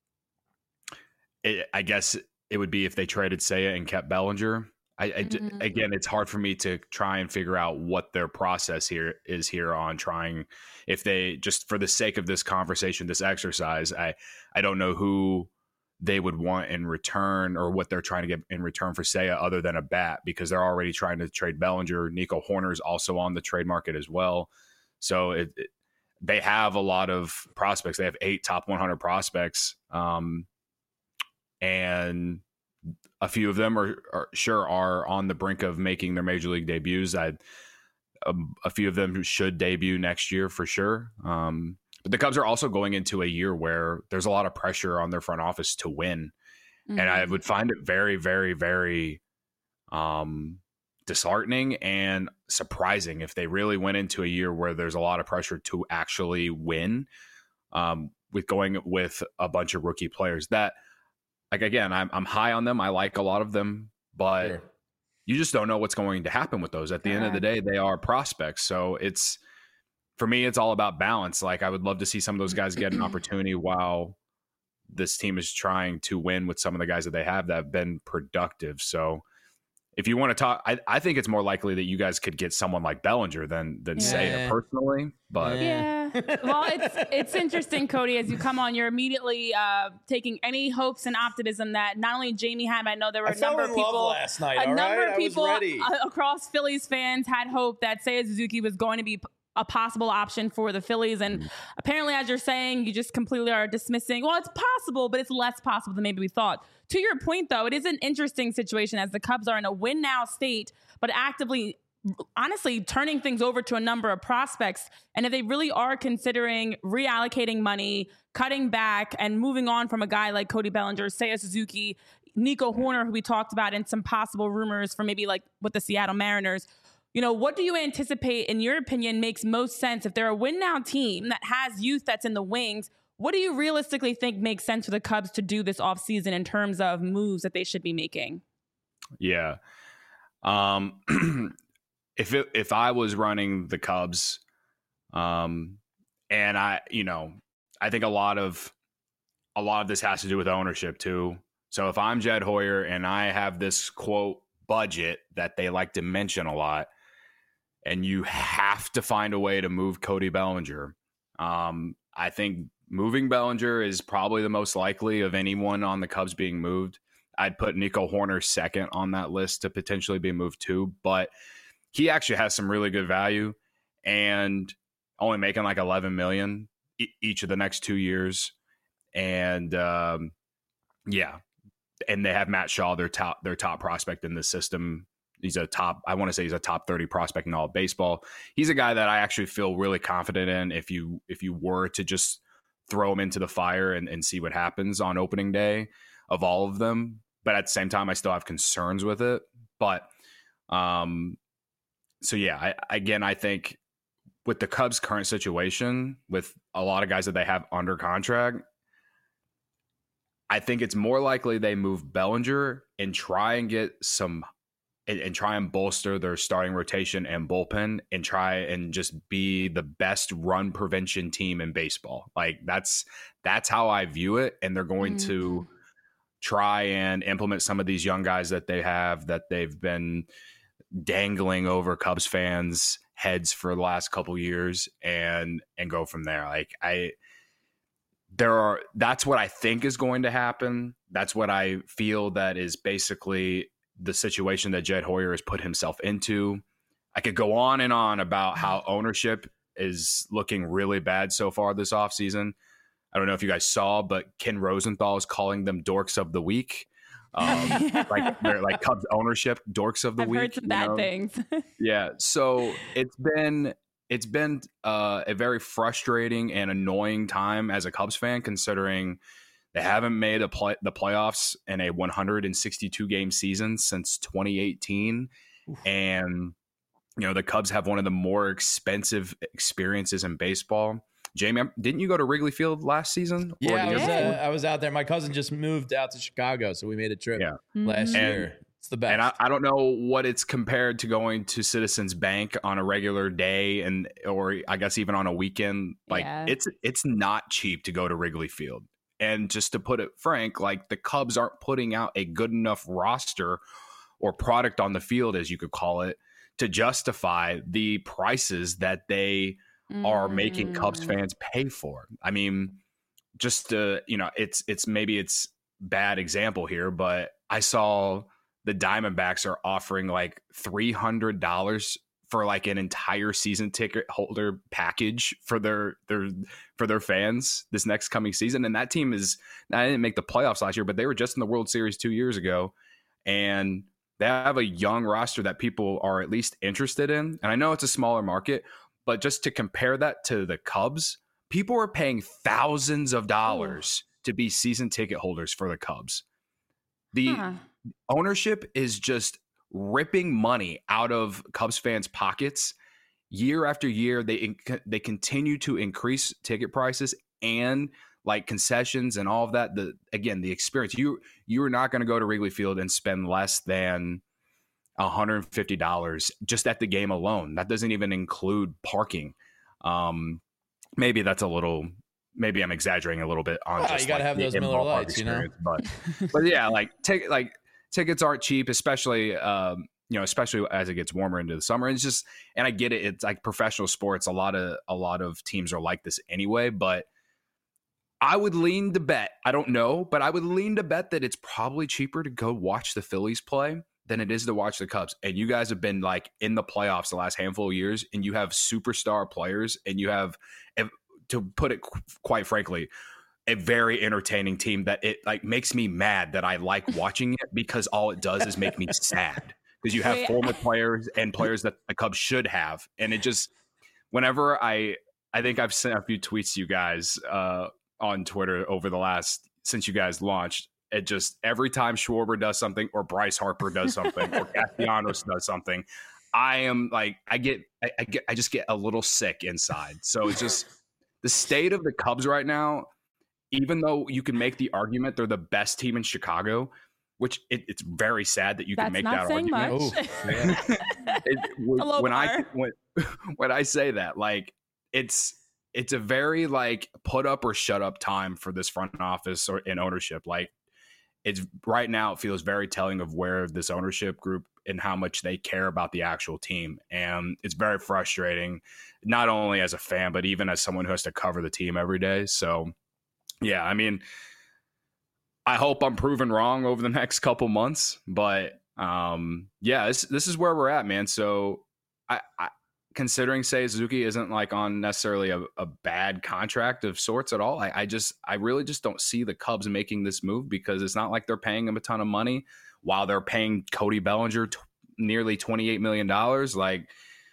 it, I guess it would be if they traded Seiya and kept Bellinger. I, I Mhm. again, it's hard for me to try and figure out what their process here is here on trying. If they just for the sake of this conversation, this exercise, I I don't know who they would want in return or what they're trying to get in return for Seiya other than a bat because they're already trying to trade Bellinger. Nico Horner's also on the trade market as well. So it, it, they have a lot of prospects. They have eight top one hundred prospects. Um, and a few of them are, are sure are on the brink of making their major league debuts. I, um, a few of them should debut next year for sure. Um, But the Cubs are also going into a year where there's a lot of pressure on their front office to win. Mm-hmm. And I would find it very, very, very um, disheartening and surprising if they really went into a year where there's a lot of pressure to actually win um, with going with a bunch of rookie players that, like, again, I'm, I'm high on them. I like a lot of them, but sure. You just don't know what's going to happen with those. At the yeah. end of the day, they are prospects. So it's, for me, it's all about balance. Like, I would love to see some of those guys get an opportunity while this team is trying to win with some of the guys that they have that have been productive. So if you want to talk, I, I think it's more likely that you guys could get someone like Bellinger than than yeah. Seiya personally. But yeah, well, it's it's interesting, Cody. As you come on, you're immediately uh, taking any hopes and optimism that not only Jamie had, but I know there were I a number of people last night. A all number right? of people I was ready. across Phillies fans had hope that Seiya Suzuki was going to be a possible option for the Phillies. And mm. apparently, as you're saying, you just completely are dismissing, well, it's possible, but it's less possible than maybe we thought. To your point, though, it is an interesting situation as the Cubs are in a win now state, but actively, honestly, turning things over to a number of prospects. And if they really are considering reallocating money, cutting back, and moving on from a guy like Cody Bellinger, Seiya Suzuki, Nico Hoerner, who we talked about, and some possible rumors for maybe like with the Seattle Mariners, you know, what do you anticipate, in your opinion, makes most sense? If they're a win-now team that has youth that's in the wings, what do you realistically think makes sense for the Cubs to do this offseason in terms of moves that they should be making? Yeah. Um, if it, if I was running the Cubs, um, and I, you know, I think a lot of a lot of this has to do with ownership too. So if I'm Jed Hoyer and I have this quote budget that they like to mention a lot, and you have to find a way to move Cody Bellinger. Um, I think moving Bellinger is probably the most likely of anyone on the Cubs being moved. I'd put Nico Hoerner second on that list to potentially be moved too, but he actually has some really good value and only making like eleven million e- each of the next two years. And um, yeah, and they have Matt Shaw, their top, their top prospect in the system. He's a top, I want to say he's a top thirty prospect in all of baseball. He's a guy that I actually feel really confident in if you if you were to just throw him into the fire and, and see what happens on opening day of all of them. But at the same time, I still have concerns with it. But um, so, yeah, I, again, I think with the Cubs' current situation, with a lot of guys that they have under contract, I think it's more likely they move Bellinger and try and get some and, and try and bolster their starting rotation and bullpen and try and just be the best run prevention team in baseball. Like that's that's how I view it. And they're going mm-hmm. to try and implement some of these young guys that they have that they've been dangling over Cubs fans' heads for the last couple years and and go from there. Like I There are, that's what I think is going to happen. That's what I feel that is basically the situation that Jed Hoyer has put himself into. I could go on and on about how ownership is looking really bad so far this offseason. I don't know if you guys saw, but Ken Rosenthal is calling them dorks of the week. Um, like they're like Cubs ownership dorks of the I've week. I've heard some bad know? things. Yeah. So it's been... It's been uh, a very frustrating and annoying time as a Cubs fan, considering they haven't made a play- the playoffs in a one hundred sixty-two game season since twenty eighteen. Oof. And, you know, the Cubs have one of the more expensive experiences in baseball. Jamie, didn't you go to Wrigley Field last season? Yeah, I was, uh, I was out there. My cousin just moved out to Chicago, so we made a trip yeah. last mm-hmm. year. It's the best. And I, I don't know what it's compared to going to Citizens Bank on a regular day and or I guess even on a weekend. Like yeah. it's it's not cheap to go to Wrigley Field. And just to put it frank, like the Cubs aren't putting out a good enough roster or product on the field, as you could call it, to justify the prices that they mm. are making Cubs fans pay for. I mean, just uh, you know, it's it's maybe it's bad example here, but I saw the Diamondbacks are offering like three hundred dollars for like an entire season ticket holder package for their their for their fans this next coming season. And that team is, I didn't make the playoffs last year, but they were just in the World Series two years ago. And they have a young roster that people are at least interested in. And I know it's a smaller market, but just to compare that to the Cubs, people are paying thousands of dollars oh. to be season ticket holders for the Cubs. The huh. ownership is just ripping money out of Cubs fans' pockets year after year. They they continue to increase ticket prices and like concessions and all of that. The again, the experience, you you are not going to go to Wrigley Field and spend less than one hundred fifty dollars just at the game alone. That doesn't even include parking. Um, maybe that's a little. Maybe I'm exaggerating a little bit on. Oh, just you gotta like have those the Miller Lights, you know. But but yeah, like take like tickets aren't cheap, especially um, you know, especially as it gets warmer into the summer. And it's just, and I get it. It's like professional sports. A lot of a lot of teams are like this anyway. But I would lean to bet. I don't know, but I would lean to bet that it's probably cheaper to go watch the Phillies play than it is to watch the Cubs. And you guys have been like in the playoffs the last handful of years, and you have superstar players, and you have, to put it qu- quite frankly, a very entertaining team that it like makes me mad that I like watching it, because all it does is make me sad, because you have Wait. former players and players that the Cubs should have. And it just, whenever I, I think I've sent a few tweets to you guys uh, on Twitter over the last, since you guys launched, it just, every time Schwarber does something or Bryce Harper does something or Castellanos does something, I am like, I get, I, I get, I just get a little sick inside. So it's just the state of the Cubs right now, even though you can make the argument they're the best team in Chicago, which it, it's very sad that you That's can make not that saying argument. much. Oh, it, when, Hello, when I bar. when, when I say that, like it's it's a very like put up or shut up time for this front office or in ownership. Like it's right now, it feels very telling of where this ownership group and how much they care about the actual team, and it's very frustrating, not only as a fan but even as someone who has to cover the team every day. So, yeah, I mean, I hope I'm proven wrong over the next couple months, but um, yeah, this this is where we're at, man. So, I, I considering Seiya Suzuki isn't like on necessarily a, a bad contract of sorts at all. I, I just, I really just don't see the Cubs making this move, because it's not like they're paying him a ton of money while they're paying Cody Bellinger t- nearly twenty-eight million dollars. Like,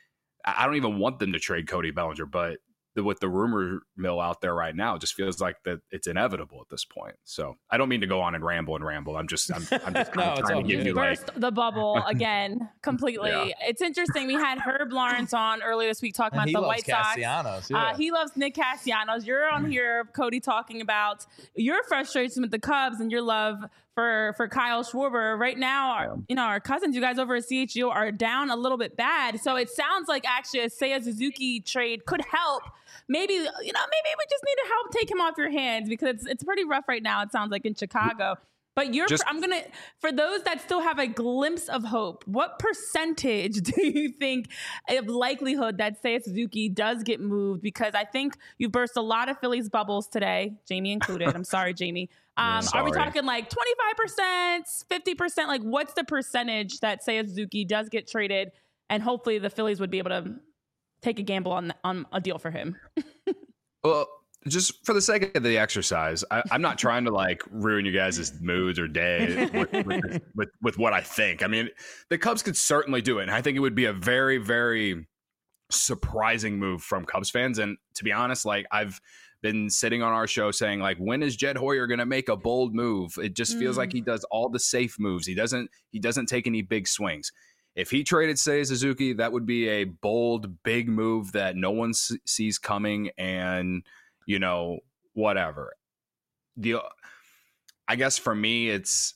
I don't even want them to trade Cody Bellinger, but the, with the rumor mill out there right now, it just feels like that it's inevitable at this point. So I don't mean to go on and ramble and ramble. I'm just, I'm, I'm just No, kind it's of all trying to give good. you like, Burst the bubble again completely. Yeah. It's interesting. We had Herb Lawrence on earlier this week talking and about he the loves White Sox. Castellanos. Yeah. Uh, he loves Nick Castellanos. You're on here, Cody, talking about your frustration with the Cubs and your love for for Kyle Schwarber. Right now, our, Yeah. you know, our cousins, you guys over at C H G O are down a little bit bad. So it sounds like actually a Seiya Suzuki trade could help. Maybe, you know, maybe we just need to help take him off your hands, because it's it's pretty rough right now, it sounds like, in Chicago. But you're, Just- I'm going to, for those that still have a glimpse of hope, what percentage do you think of likelihood that Seiya Suzuki does get moved? Because I think you've burst a lot of Phillies bubbles today, Jamie included. I'm sorry, Jamie. Um, Yeah, are we sorry. talking like twenty-five percent, fifty percent? Like, what's the percentage that Seiya Suzuki does get traded, and hopefully the Phillies would be able to take a gamble on on a deal for him? well, just for the sake of the exercise, I, I'm not trying to like ruin you guys' moods or day with, with, with, with what I think. I mean, the Cubs could certainly do it, and I think it would be a very, very surprising move from Cubs fans. And to be honest, like I've been sitting on our show saying, like, when is Jed Hoyer going to make a bold move? It just feels Mm. like he does all the safe moves. He doesn't. He doesn't take any big swings. If he traded Seiya Suzuki, that would be a bold, big move that no one s- sees coming, and you know, whatever. The, I guess for me, it's,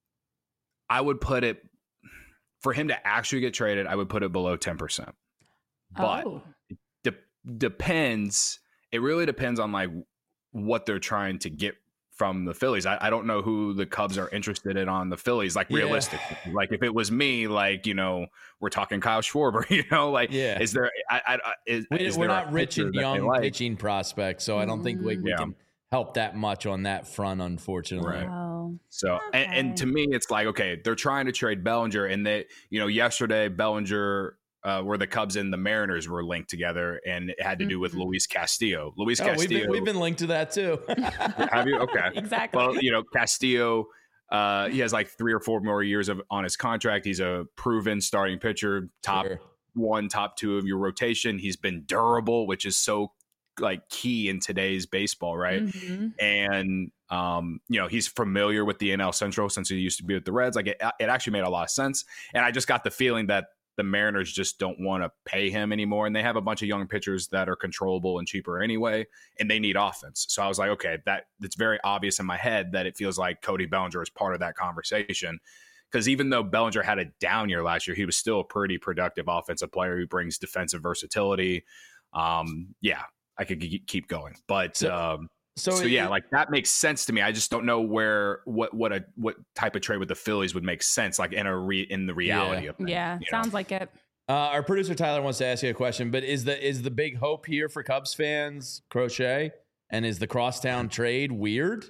I would put it, for him to actually get traded, I would put it below ten percent. But Oh. it de- depends. It really depends on like what they're trying to get from the Phillies. I, I don't know who the Cubs are interested in on the Phillies. Like Yeah. realistically, like if it was me, like, you know, we're talking Kyle Schwarber, you know, like, Yeah. is there, I, I, I- is, We, is we're there a not rich pitcher and that they young like? pitching prospects, so I don't think we, we Yeah. can help that much on that front, unfortunately. Right. Oh. So, and, and Okay. to me, it's like, okay, they're trying to trade Bellinger, and they, you know, yesterday Bellinger, uh, where the Cubs and the Mariners were linked together, and it had to do with Mhm. Luis Castillo. Luis Oh, we've Castillo, been, we've been linked to that too. have you? Okay. Exactly. Well, you know, Castillo, uh, he has like three or four more years of on his contract. He's a proven starting pitcher, top Sure. one, top two of your rotation. He's been durable, which is so like key in today's baseball, right? Mhm. And um, you know, he's familiar with the N L Central since he used to be with the Reds. Like it, it actually made a lot of sense. And I just got the feeling that the Mariners just don't want to pay him anymore, and they have a bunch of young pitchers that are controllable and cheaper anyway, and they need offense. So I was like, okay, that it's very obvious in my head that it feels like Cody Bellinger is part of that conversation. Because even though Bellinger had a down year last year, he was still a pretty productive offensive player who brings defensive versatility. Um, yeah, I could g- keep going, but So- um, So, so it- yeah, like that makes sense to me. I just don't know where what what a what type of trade with the Phillies would make sense, like in a re, in the reality Yeah. of things. Yeah, you sounds know? like it. Uh, our producer Tyler wants to ask you a question, but is the is the big hope here for Cubs fans Crochet, and is the crosstown trade weird?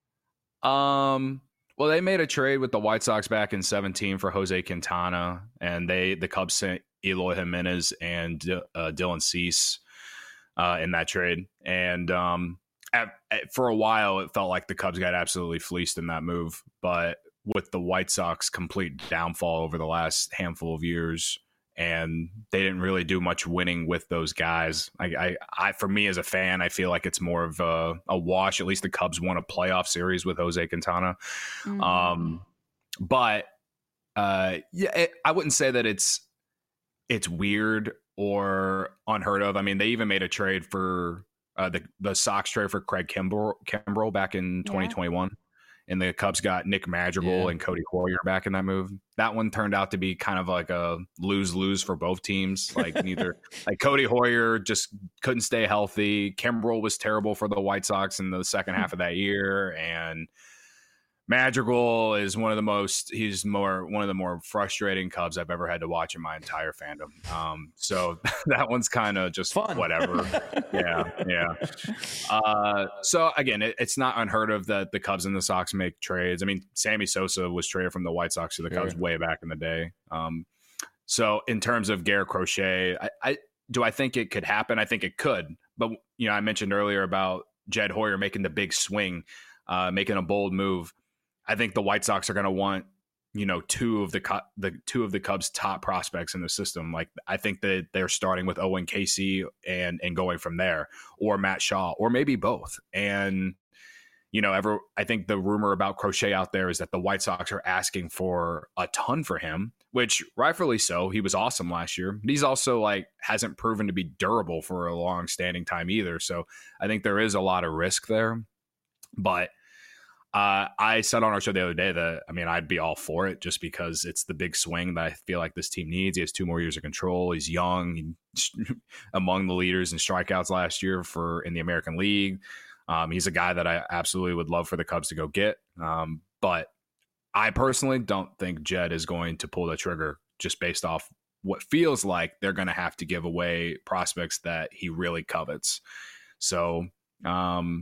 Um. Well, they made a trade with the White Sox back in seventeen for Jose Quintana, and they the Cubs sent Eloy Jimenez and uh, Dylan Cease uh, in that trade, and um. At, at, for a while, it felt like the Cubs got absolutely fleeced in that move. But with the White Sox complete downfall over the last handful of years, and they didn't really do much winning with those guys. I, I, I for me as a fan, I feel like it's more of a, a wash. At least the Cubs won a playoff series with Jose Quintana. Mhm. Um, but uh, yeah, it, I wouldn't say that it's it's weird or unheard of. I mean, they even made a trade for. Uh, the the Sox trade for Craig Kimbrell, Kimbrell back in twenty twenty-one, yeah. And the Cubs got Nick Madrigal Yeah. and Cody Hoyer back in that move. That one turned out to be kind of like a lose lose for both teams. Like neither, like Cody Hoyer just couldn't stay healthy. Kimbrell was terrible for the White Sox in the second half of that year, and Madrigal is one of the most he's more one of the more frustrating Cubs I've ever had to watch in my entire fandom. Um, so that one's kind of just Fun. whatever. yeah, yeah. Uh, so again, it, it's not unheard of that the Cubs and the Sox make trades. I mean, Sammy Sosa was traded from the White Sox to the Cubs Sure. way back in the day. Um, so in terms of Garrett Crochet, I, I do I think it could happen? I think it could. But you know, I mentioned earlier about Jed Hoyer making the big swing, uh, making a bold move. I think the White Sox are going to want, you know, two of the the two of the Cubs' top prospects in the system. Like I think that they're starting with Owen Casey and and going from there, or Matt Shaw, or maybe both. And you know, ever I think the rumor about Crochet out there is that the White Sox are asking for a ton for him, which rightfully so. He was awesome last year, but he's also like hasn't proven to be durable for a long standing time either. So I think there is a lot of risk there, but. Uh, I said on our show the other day that, I mean, I'd be all for it just because it's the big swing that I feel like this team needs. He has two more years of control. He's young, he's among the leaders in strikeouts last year for in the American League. Um, he's a guy that I absolutely would love for the Cubs to go get. Um, but I personally don't think Jed is going to pull the trigger just based off what feels like they're going to have to give away prospects that he really covets. So um,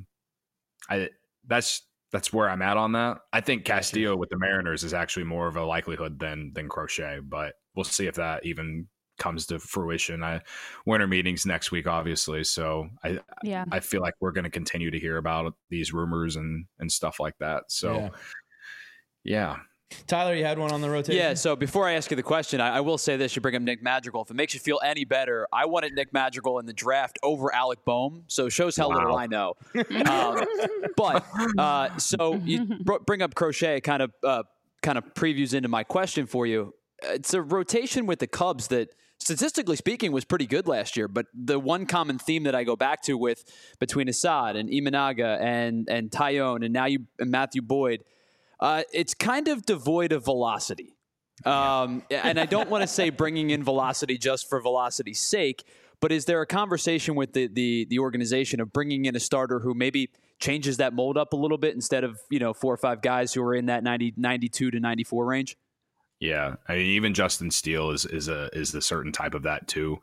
I that's That's where I'm at on that. I think Castillo with the Mariners is actually more of a likelihood than than Crochet, but we'll see if that even comes to fruition. I winter meetings next week, obviously, so I Yeah. I feel like we're going to continue to hear about these rumors and and stuff like that. So Yeah. yeah. Tyler, you had one on the rotation? Yeah, so before I ask you the question, I, I will say this. You bring up Nick Madrigal. If it makes you feel any better, I wanted Nick Madrigal in the draft over Alec Boehm, so it shows how Wow. little I know. um, but, uh, so you br- bring up Crochet, kind of uh, kind of previews into my question for you. It's a rotation with the Cubs that, statistically speaking, was pretty good last year, but the one common theme that I go back to with between Assad and Imanaga and, and Tyone and now you and Matthew Boyd, Uh, it's kind of devoid of velocity. Um, and I don't want to say bringing in velocity just for velocity's sake, but is there a conversation with the, the the organization of bringing in a starter who maybe changes that mold up a little bit instead of, you know, four or five guys who are in that ninety, ninety-two to ninety-four range? Yeah, I mean, even Justin Steele is is a is the certain type of that too.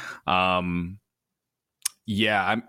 Um, yeah, I'm.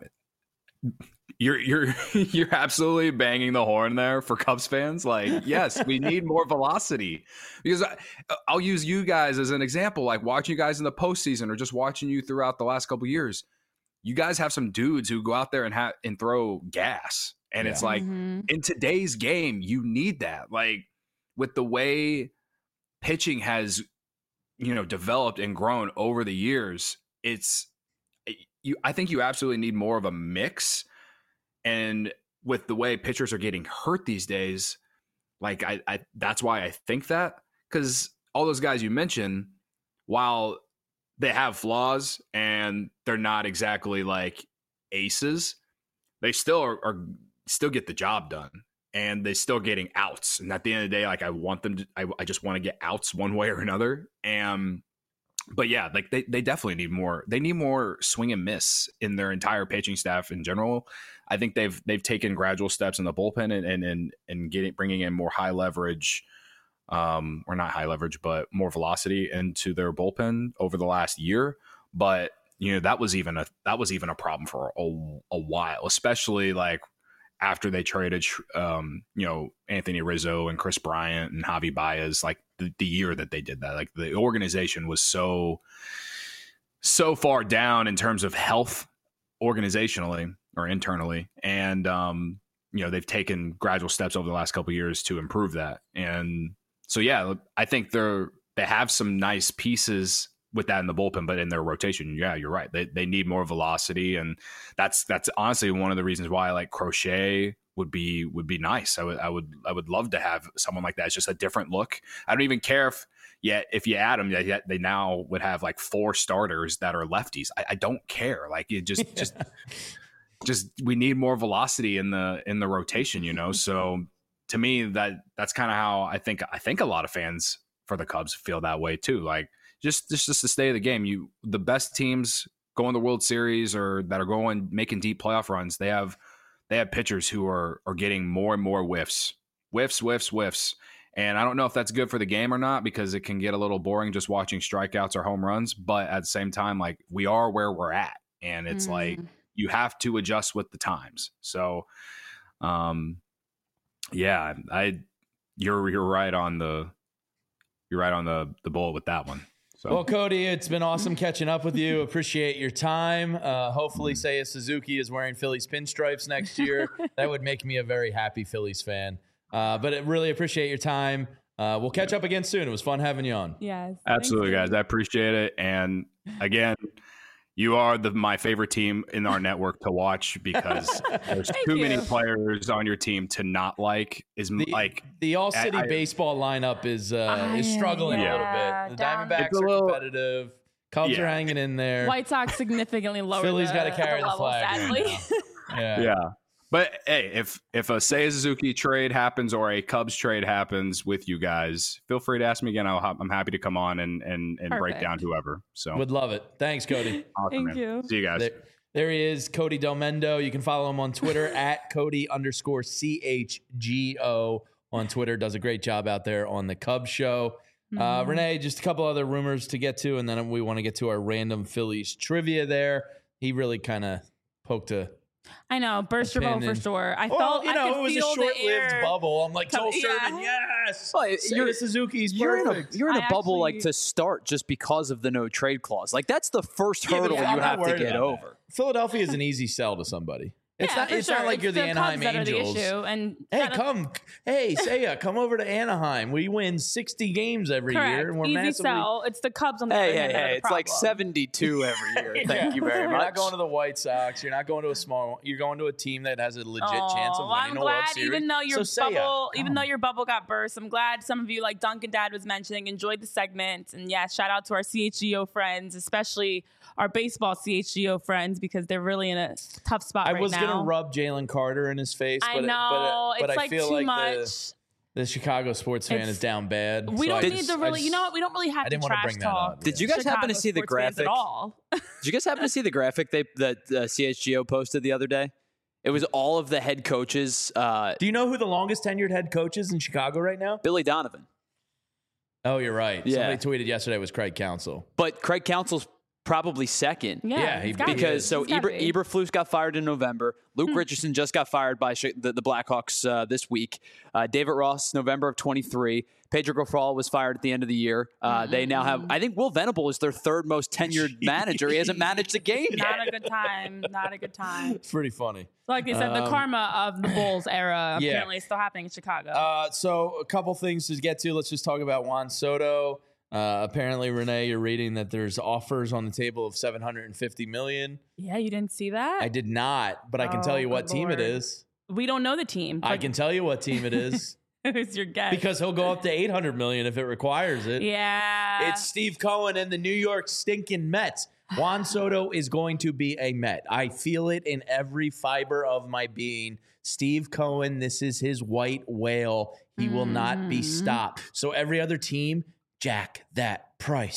You're you're you're absolutely banging the horn there for Cubs fans. Like, yes, we need more velocity because I, I'll use you guys as an example. Like watching you guys in the postseason or just watching you throughout the last couple of years. You guys have some dudes who go out there and have and throw gas, and Yeah. it's like Mhm. in today's game, you need that. Like with the way pitching has, you know, developed and grown over the years, it's you. I think you absolutely need more of a mix. And with the way pitchers are getting hurt these days, like I, I that's why I think that, because all those guys you mentioned, while they have flaws and they're not exactly like aces, they still are, are still get the job done, and they still getting outs. And at the end of the day, like I want them to, I, I just want to get outs one way or another. And but yeah, like they, they definitely need more. They need more swing and miss in their entire pitching staff in general. I think they've they've taken gradual steps in the bullpen and and and, and getting bringing in more high leverage, um, or not high leverage, but more velocity into their bullpen over the last year. But you know that was even a that was even a problem for a, a while, especially like after they traded, um, you know, Anthony Rizzo and Chris Bryant and Javi Baez, like the, the year that they did that, like the organization was so, so far down in terms of health organizationally or internally. And, um, you know, they've taken gradual steps over the last couple of years to improve that. And so, yeah, I think they're, they have some nice pieces with that in the bullpen, but in their rotation, yeah, you're right. They they need more velocity, and that's that's honestly one of the reasons why like Crochet would be would be nice. I would I would I would love to have someone like that. It's just a different look. I don't even care if yet if you add them, yet they now would have like four starters that are lefties. I, I don't care. Like it just just just we need more velocity in the in the rotation, you know. So to me, that that's kind of how I think I think a lot of fans for the Cubs feel that way too. Like. Just, just, just the state of the game. You, the best teams going to the World Series or that are going making deep playoff runs. They have, they have pitchers who are are getting more and more whiffs, whiffs, whiffs, whiffs. And I don't know if that's good for the game or not because it can get a little boring just watching strikeouts or home runs. But at the same time, like we are where we're at, and it's mm. like you have to adjust with the times. So, um, yeah, I, you're you're right on the, you're right on the the bullet with that one. So. Well, Cody, it's been awesome catching up with you. Appreciate your time. Uh, hopefully, Seiya Suzuki is wearing Phillies pinstripes next year. That would make me a very happy Phillies fan. Uh, but I really appreciate your time. Uh, we'll catch up again soon. It was fun having you on. Yes. Absolutely, guys. I appreciate it. And again, you are the my favorite team in our network to watch because there's too you. many players on your team to not like. Is the, like the All City I, baseball lineup is uh, uh, is struggling yeah, a little bit. The Diamondbacks are little, competitive. Cubs yeah. are hanging in there. White Sox significantly lower. Philly's got to carry the, the flag. Sadly. yeah. Yeah. But hey, if if a Seiya Suzuki trade happens or a Cubs trade happens with you guys, feel free to ask me again. I'll, I'm happy to come on and and, and break down whoever. So would love it. Thanks, Cody. Awesome, Thank man. you. See you guys. There, there he is, Cody Delmendo. You can follow him on Twitter at Cody underscore C H G O on Twitter. Does a great job out there on the Cubs show. Mm-hmm. Uh, Renee, just a couple other rumors to get to, and then we want to get to our random Phillies trivia there. He really kind of poked a I know, burst your bubble for sure. I well, felt you know, I could it was feel a short-lived air. bubble. I'm like, Joel Yeah. Sherman, yes. Well, Seiya Suzuki's You're perfect. in a, you're in a I bubble actually- like to start just because of the no trade clause. Like that's the first Yeah, hurdle but you I'm not have to worried get about over. that. Philadelphia is an easy sell to somebody. It's yeah, not. for It's sure. not like It's you're the, the Anaheim Cubs that are the Angels. issue, and Hey, that- come. Hey, Seiya, come over to Anaheim. We win sixty games every Correct. year, and we're Easy massively. sell. It's the Cubs on the Hey, other hey, hand that are hey! the It's like problem. seventy-two every year. Thank Yeah. you very You're much. not going to the White Sox. You're not going to a small one. You're going to a team that has a legit Oh, chance of well, winning I'm a World glad, Series. even though your So Seiya, bubble, even come. though your bubble got burst, I'm glad some of you, like Duncan Dad was mentioning, enjoyed the segment. And yeah, shout out to our C H G O friends, especially our baseball C H G O friends, because they're really in a tough spot I right was now. gonna rub Jalen Carter in his face. I but know it, but, it, but it's I like feel too like much. The, the Chicago sports fan It's- is down bad. We so don't I need just- to I really, you just- know what? We don't really have I to didn't want to trash bring that talk. up. Did you yeah. guys happen to Chicago see the sports fans graphic? at all? Did you guys happen to see the graphic they that uh, C H G O posted the other day? It was all of the head coaches. Uh, Do you know who the longest tenured head coach is in Chicago right now? Billy Donovan, Oh, you're right. Yeah. Somebody tweeted yesterday it was Craig Counsell. but Craig Counsell's probably second. Yeah, Yeah, he- it's gotta be. Because so It's gotta Eber, be. Eberflus got fired in November. Luke Richardson just got fired by Sh- the, the Blackhawks uh, this week. Uh, David Ross, November of twenty-three. Pedro Grifol was fired at the end of the year. Uh, They now have, I think Will Venable is their third most tenured manager. He hasn't managed a game yet. Not a good time. Not a good time. It's pretty funny. Like they said, the Um, karma of the Bulls era yeah. apparently is still happening in Chicago. Uh, so a couple things to get to. Let's just talk about Juan Soto. Uh, apparently, Renee, you're reading that there's offers on the table of seven hundred fifty million. yeah, you didn't see that? I did not, but I can Oh, tell you what good team it Lord. is. We don't know the team. I can tell you what team it is Who's your guess? because he'll go up to eight hundred million if it requires it. yeah, It's Steve Cohen and the New York stinking Mets. Juan Soto is going to be a Met. I feel it in every fiber of my being. Steve Cohen, this is his white whale. He will not be Mhm. stopped. So every other team, jack that price.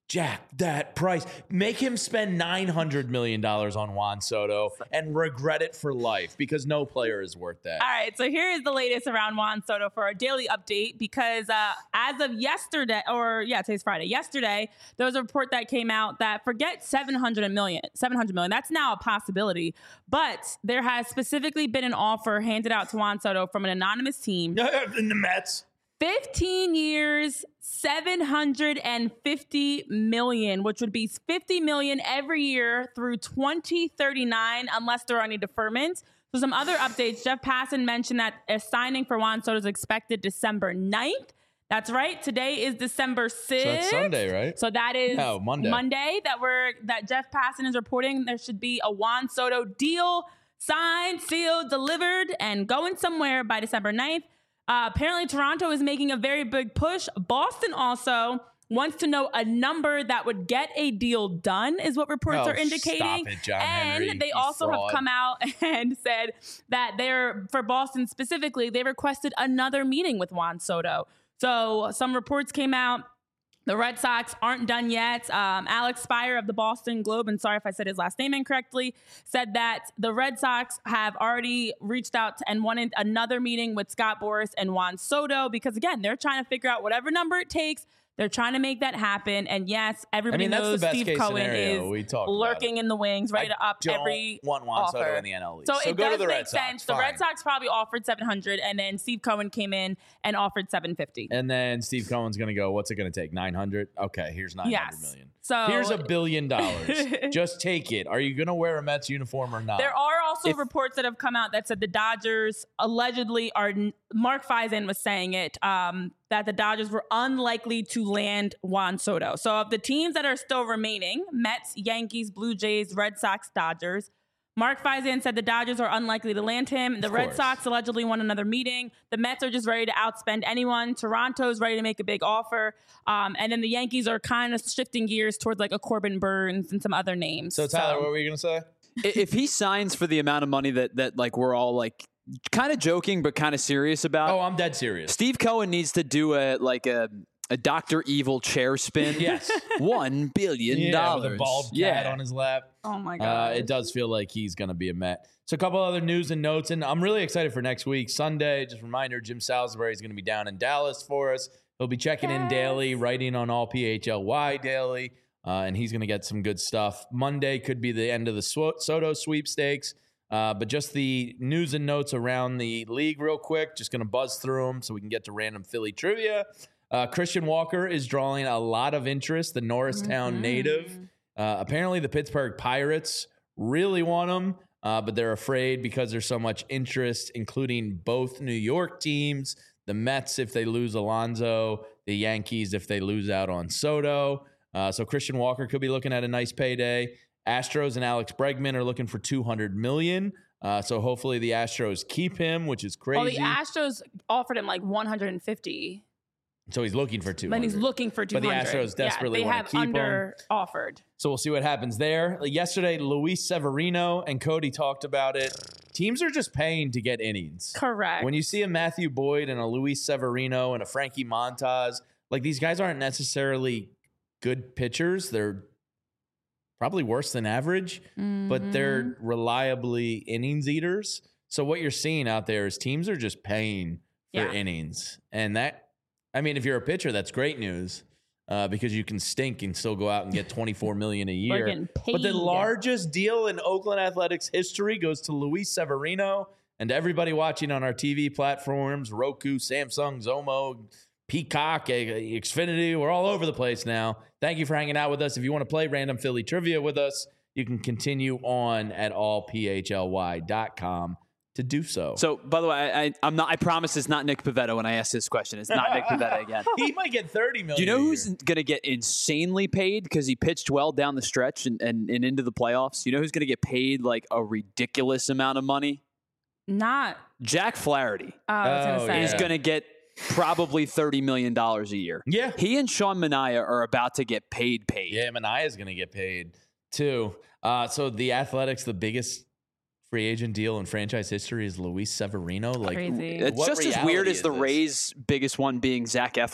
jack that price. Make him spend nine hundred million dollars on Juan Soto and regret it for life because no player is worth that. All right, so here is the latest around Juan Soto for our daily update because uh, as of yesterday, or yeah, today's Friday, yesterday, there was a report that came out that forget seven hundred million, seven hundred million, that's now a possibility, but there has specifically been an offer handed out to Juan Soto from an anonymous team. In the Mets. fifteen years, seven hundred fifty million, which would be fifty million every year through twenty thirty-nine, unless there are any deferments. So some other updates. Jeff Passan mentioned that a signing for Juan Soto is expected December ninth. That's right. Today is December sixth. So that's Sunday, right? So that is no, Monday. Monday that we're that Jeff Passan is reporting there should be a Juan Soto deal signed, sealed, delivered, and going somewhere by December ninth. Uh, apparently, Toronto is making a very big push. Boston also wants to know a number that would get a deal done, is what reports oh, are indicating. Stop it, John and Henry, they also fraud. have come out and said that they're, for Boston specifically, they requested another meeting with Juan Soto. So some reports came out. The Red Sox aren't done yet. Um, Alex Spire of the Boston Globe, and sorry if I said his last name incorrectly, said that the Red Sox have already reached out and wanted another meeting with Scott Boras and Juan Soto because, again, they're trying to figure out whatever number it takes. They're trying to make that happen. And yes, everybody I mean, knows that's the best Steve case Cohen scenario. is We talked lurking about it. in the wings, ready I to up don't every want Juan offer. Soto in the N L East. So, So it go does to the make Red Sox. sense. The Fine. Red Sox probably offered seven hundred, and then Steve Cohen came in and offered seven fifty. And then Steve Cohen's going to go, what's it going to take? nine hundred? Okay, here's nine hundred Yes. million. So Here's a billion dollars. Just take it. Are you going to wear a Mets uniform or not? There are also If- reports that have come out that said the Dodgers allegedly are, Mark Feisen was saying it, um, that the Dodgers were unlikely to land Juan Soto. So of the teams that are still remaining, Mets, Yankees, Blue Jays, Red Sox, Dodgers, Mark Feisen said the Dodgers are unlikely to land him. The Of Red course. Sox allegedly want another meeting. The Mets are just ready to outspend anyone. Toronto's ready to make a big offer. Um, and then the Yankees are kind of shifting gears towards like a Corbin Burns and some other names. So, Tyler, what were you going to say? I- if he signs for the amount of money that that like we're all like kind of joking but kind of serious about, Oh, I'm dead serious. Steve Cohen needs to do a like a a Doctor Evil chair spin. Yes. One billion Yeah, dollars. with a bald cat yeah. on his lap. Oh my Uh, God. it does feel like he's going to be a Met. So a couple other news and notes, and I'm really excited for next week. Sunday, just a reminder, Jim Salisbury is going to be down in Dallas for us. He'll be checking in Yes. daily, writing on all P H L Y daily, uh, and he's going to get some good stuff. Monday could be the end of the Sw- Soto sweepstakes, uh, but just the news and notes around the league real quick. Just going to buzz through them so we can get to random Philly trivia. Uh, Christian Walker is drawing a lot of interest, the Norristown Mhm. native. Uh, apparently, the Pittsburgh Pirates really want him, uh, but they're afraid because there's so much interest, including both New York teams, the Mets if they lose Alonso, the Yankees if they lose out on Soto. Uh, so Christian Walker could be looking at a nice payday. Astros and Alex Bregman are looking for two hundred million dollars. Uh, so hopefully the Astros keep him, which is crazy. Well, the Astros offered him like one hundred fifty. so he's looking for two hundred. But he's looking for two But the hundred. Astros desperately yeah, they wanna have keep him. under offered. So we'll see what happens there. Like yesterday, Luis Severino and Cody talked about it. Teams are just paying to get innings. Correct. When you see a Matthew Boyd and a Luis Severino and a Frankie Montas, like these guys aren't necessarily good pitchers. They're probably worse than average, but they're reliably innings eaters. So what you're seeing out there is teams are just paying for Yeah. innings. And that, I mean, if you're a pitcher, that's great news. Uh, because you can stink and still go out and get twenty-four million dollars a year. getting But the paid. largest deal in Oakland Athletics history goes to Luis Severino and everybody watching on our T V platforms, Roku, Samsung, Zomo, Peacock, Xfinity. We're all over the place now. Thank you for hanging out with us. If you want to play Random Philly Trivia with us, you can continue on at all p h l y dot com to do so. So, by the way, I, I, I'm not. I promise it's not Nick Pivetta when I ask this question. It's not Nick Pivetta again. He might get thirty million Do you know dollars who's going to get insanely paid because he pitched well down the stretch and, and, and into the playoffs? You know who's going to get paid like a ridiculous amount of money? Not. Jack Flaherty Uh, I was Oh, gonna say. is yeah. going to get probably thirty million dollars a year. Yeah. He and Sean Manaea are about to get paid paid. Yeah, Manaea's going to get paid too. Uh, so the Athletics, the biggest free agent deal in franchise history is Luis Severino. Like, Crazy. It's what just as reality weird as is the this? Rays' biggest one being Zach Eflin.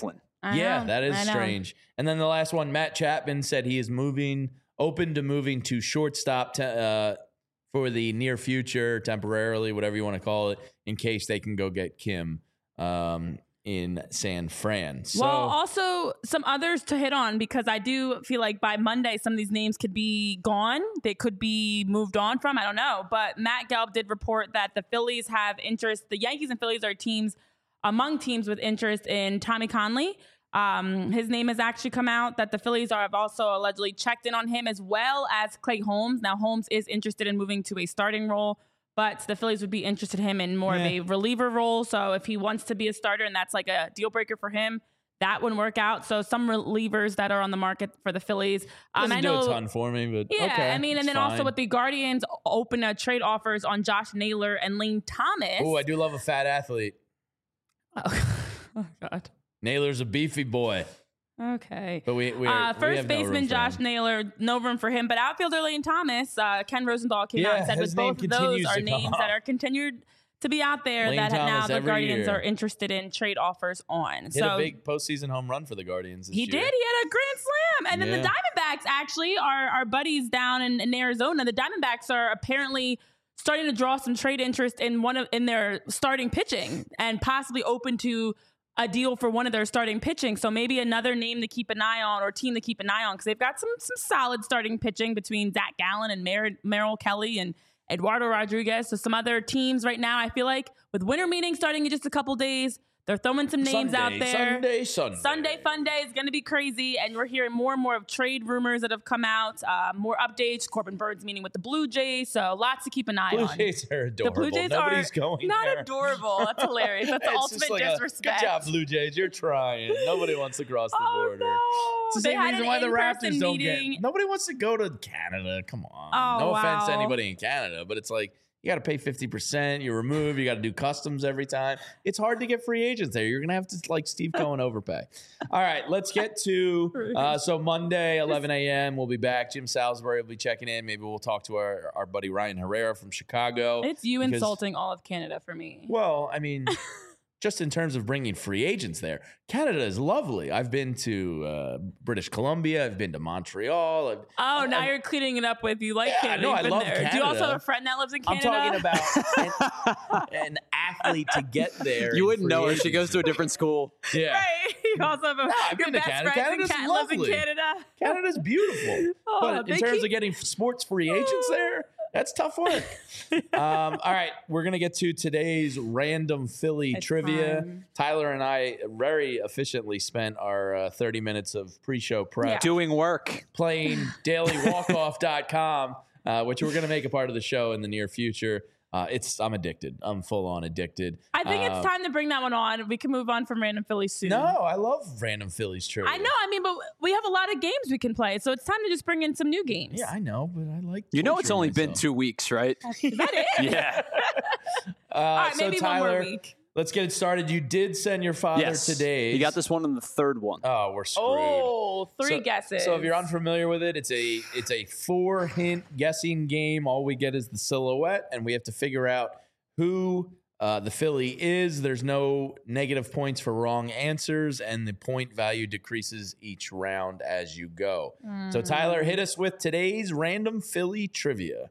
I yeah, know, that is I know. strange. And then the last one, Matt Chapman said he is moving, open to moving to shortstop te- uh, for the near future, temporarily, whatever you want to call it, in case they can go get Kim um, in San Fran. So, well, also some others to hit on, because I do feel like by Monday, some of these names could be gone. They could be moved on from. I don't know. But Matt Gelb did report that the Phillies have interest. The Yankees and Phillies are teams among teams with interest in Tommy Conley. Um, his name has actually come out that the Phillies are, have also allegedly checked in on him, as well as Clay Holmes. Now, Holmes is interested in moving to a starting role, but the Phillies would be interested in him in more Yeah. of a reliever role. So if he wants to be a starter and that's like a deal breaker for him, that wouldn't work out. So some relievers that are on the market for the Phillies. Um, doesn't I do know, a ton for me, but yeah, okay, I mean, and it's then also fine. with the Guardians open uh, trade offers on Josh Naylor and Lane Thomas. Oh, I do love a fat athlete. Oh, oh God. Naylor's a beefy boy. Okay. But we, we, uh, we first have no room baseman for Josh him. Naylor, no room for him. But outfielder Lane Thomas, uh, Ken Rosenthal came out Yeah, and said his with name both of those continues are to come names up. that are continued to be out there Lane that now Thomas the every Guardians year. are interested in trade offers on. Hit so a big postseason home run for the Guardians this he year. did. He had a grand slam. And then Yeah. the Diamondbacks, actually, our, our buddies down in, in Arizona, the Diamondbacks are apparently starting to draw some trade interest in one of in their starting pitching and possibly open to a deal for one of their starting pitching. So maybe another name to keep an eye on, or team to keep an eye on, because they've got some some solid starting pitching between Zach Gallen and Mer- Merrill Kelly and Eduardo Rodriguez. So some other teams right now, I feel like with winter meetings starting in just a couple days, they're throwing some names Sunday, out there. Sunday, Sunday. Sunday Fun Day is going to be crazy, and we're hearing more and more of trade rumors that have come out, uh, more updates. Corbin Bird's meeting with the Blue Jays, so lots to keep an eye Blue on. Jays are The adorable. Blue Jays Nobody's are going not there. adorable. That's hilarious. That's the It's ultimate just like a, disrespect. good job, Blue Jays. You're trying. Nobody wants to cross the Oh, border. no. It's the They same had reason an why the in-person Raptors don't meeting. get. Nobody wants to go to Canada. Come on. Oh, no offense to wow. anybody in Canada, but it's like you got to pay fifty percent. You're removed. You got to do customs every time. It's hard to get free agents there. You're gonna have to like Steve Cohen overpay. All right, let's get to uh, so Monday, eleven a.m. We'll be back. Jim Salisbury will be checking in. Maybe we'll talk to our our buddy Ryan Herrera from Chicago. It's you because- insulting all of Canada for me. Well, I mean, just in terms of bringing free agents there, Canada is lovely. I've been to uh, British Columbia. I've been to Montreal. I've, Oh, now I'm- you're cleaning it up with you like Yeah, Canada. no, You've I been love there. Do you also Canada. have a friend that lives in I'm Canada? talking about an, an athlete to get there. You in wouldn't free know her. She goes to a agency. different school. Yeah. Right. You also have a, I've your been to best Canada. friends Canada's in Can- lives in lovely. Canada. Canada's beautiful. Oh, but in they terms keep- of getting sports free agents there, that's tough work. um, all right, we're going to get to today's random Philly It's trivia. fun. Tyler and I very efficiently spent our uh, thirty minutes of pre-show prep Yeah. Doing work. playing daily walk off dot com, uh, which we're going to make a part of the show in the near future. Uh, it's I'm addicted. I'm full on addicted. I think Uh, it's time to bring that one on. We can move on from Random Philly soon. No, I love random Phillies trivia. I know. I mean, but we have a lot of games we can play, so it's time to just bring in some new games. Yeah, I know, but I like. You know it's torturing only been myself. two weeks, right? Is that it? Yeah. Uh, All right, so maybe Tyler, one more week. let's get it started. You did send your father Yes. today. You got this one in the third one. Oh, we're screwed. Oh, three so, guesses. So if you're unfamiliar with it, it's a it's a four hint guessing game. All we get is the silhouette, and we have to figure out who uh, the Philly is. There's no negative points for wrong answers, and the point value decreases each round as you go. So Tyler, hit us with today's random Philly trivia.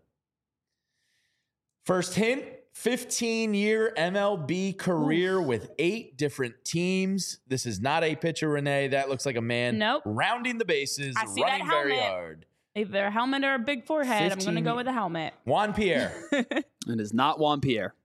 First hint, fifteen-year M L B career with eight different teams. This is not a pitcher, Renee. That looks like a man Nope. rounding the bases, I see that running very helmet. hard. Either a helmet or a big forehead. I'm going to fifteen go with a helmet. Juan Pierre. It is not Juan Pierre.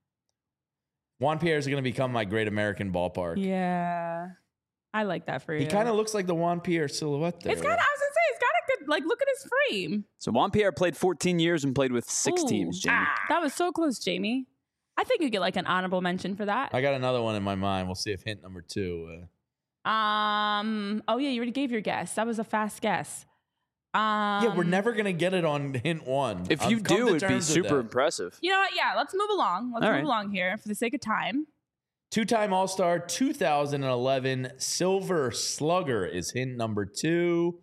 Juan Pierre is going to become my Great American Ballpark. Yeah. I like that for you. He kind of looks like the Juan Pierre silhouette there. It's got, I was going to say, it's got a good, like, look at his frame. So Juan Pierre played fourteen years and played with six Ooh. teams, Jamie. That was so close, Jamie. I think you get like an honorable mention for that. I got another one in my mind. We'll see if hint number two. Uh, Um. Oh yeah, you already gave your guess. That was a fast guess. Um, yeah, we're never going to get it on hint one. If I've you come do, to it'd be terms with super that. impressive. You know what? Yeah, let's move along. Let's All move right. along here for the sake of time. Two-time All-Star, two thousand eleven Silver Slugger is hint number two.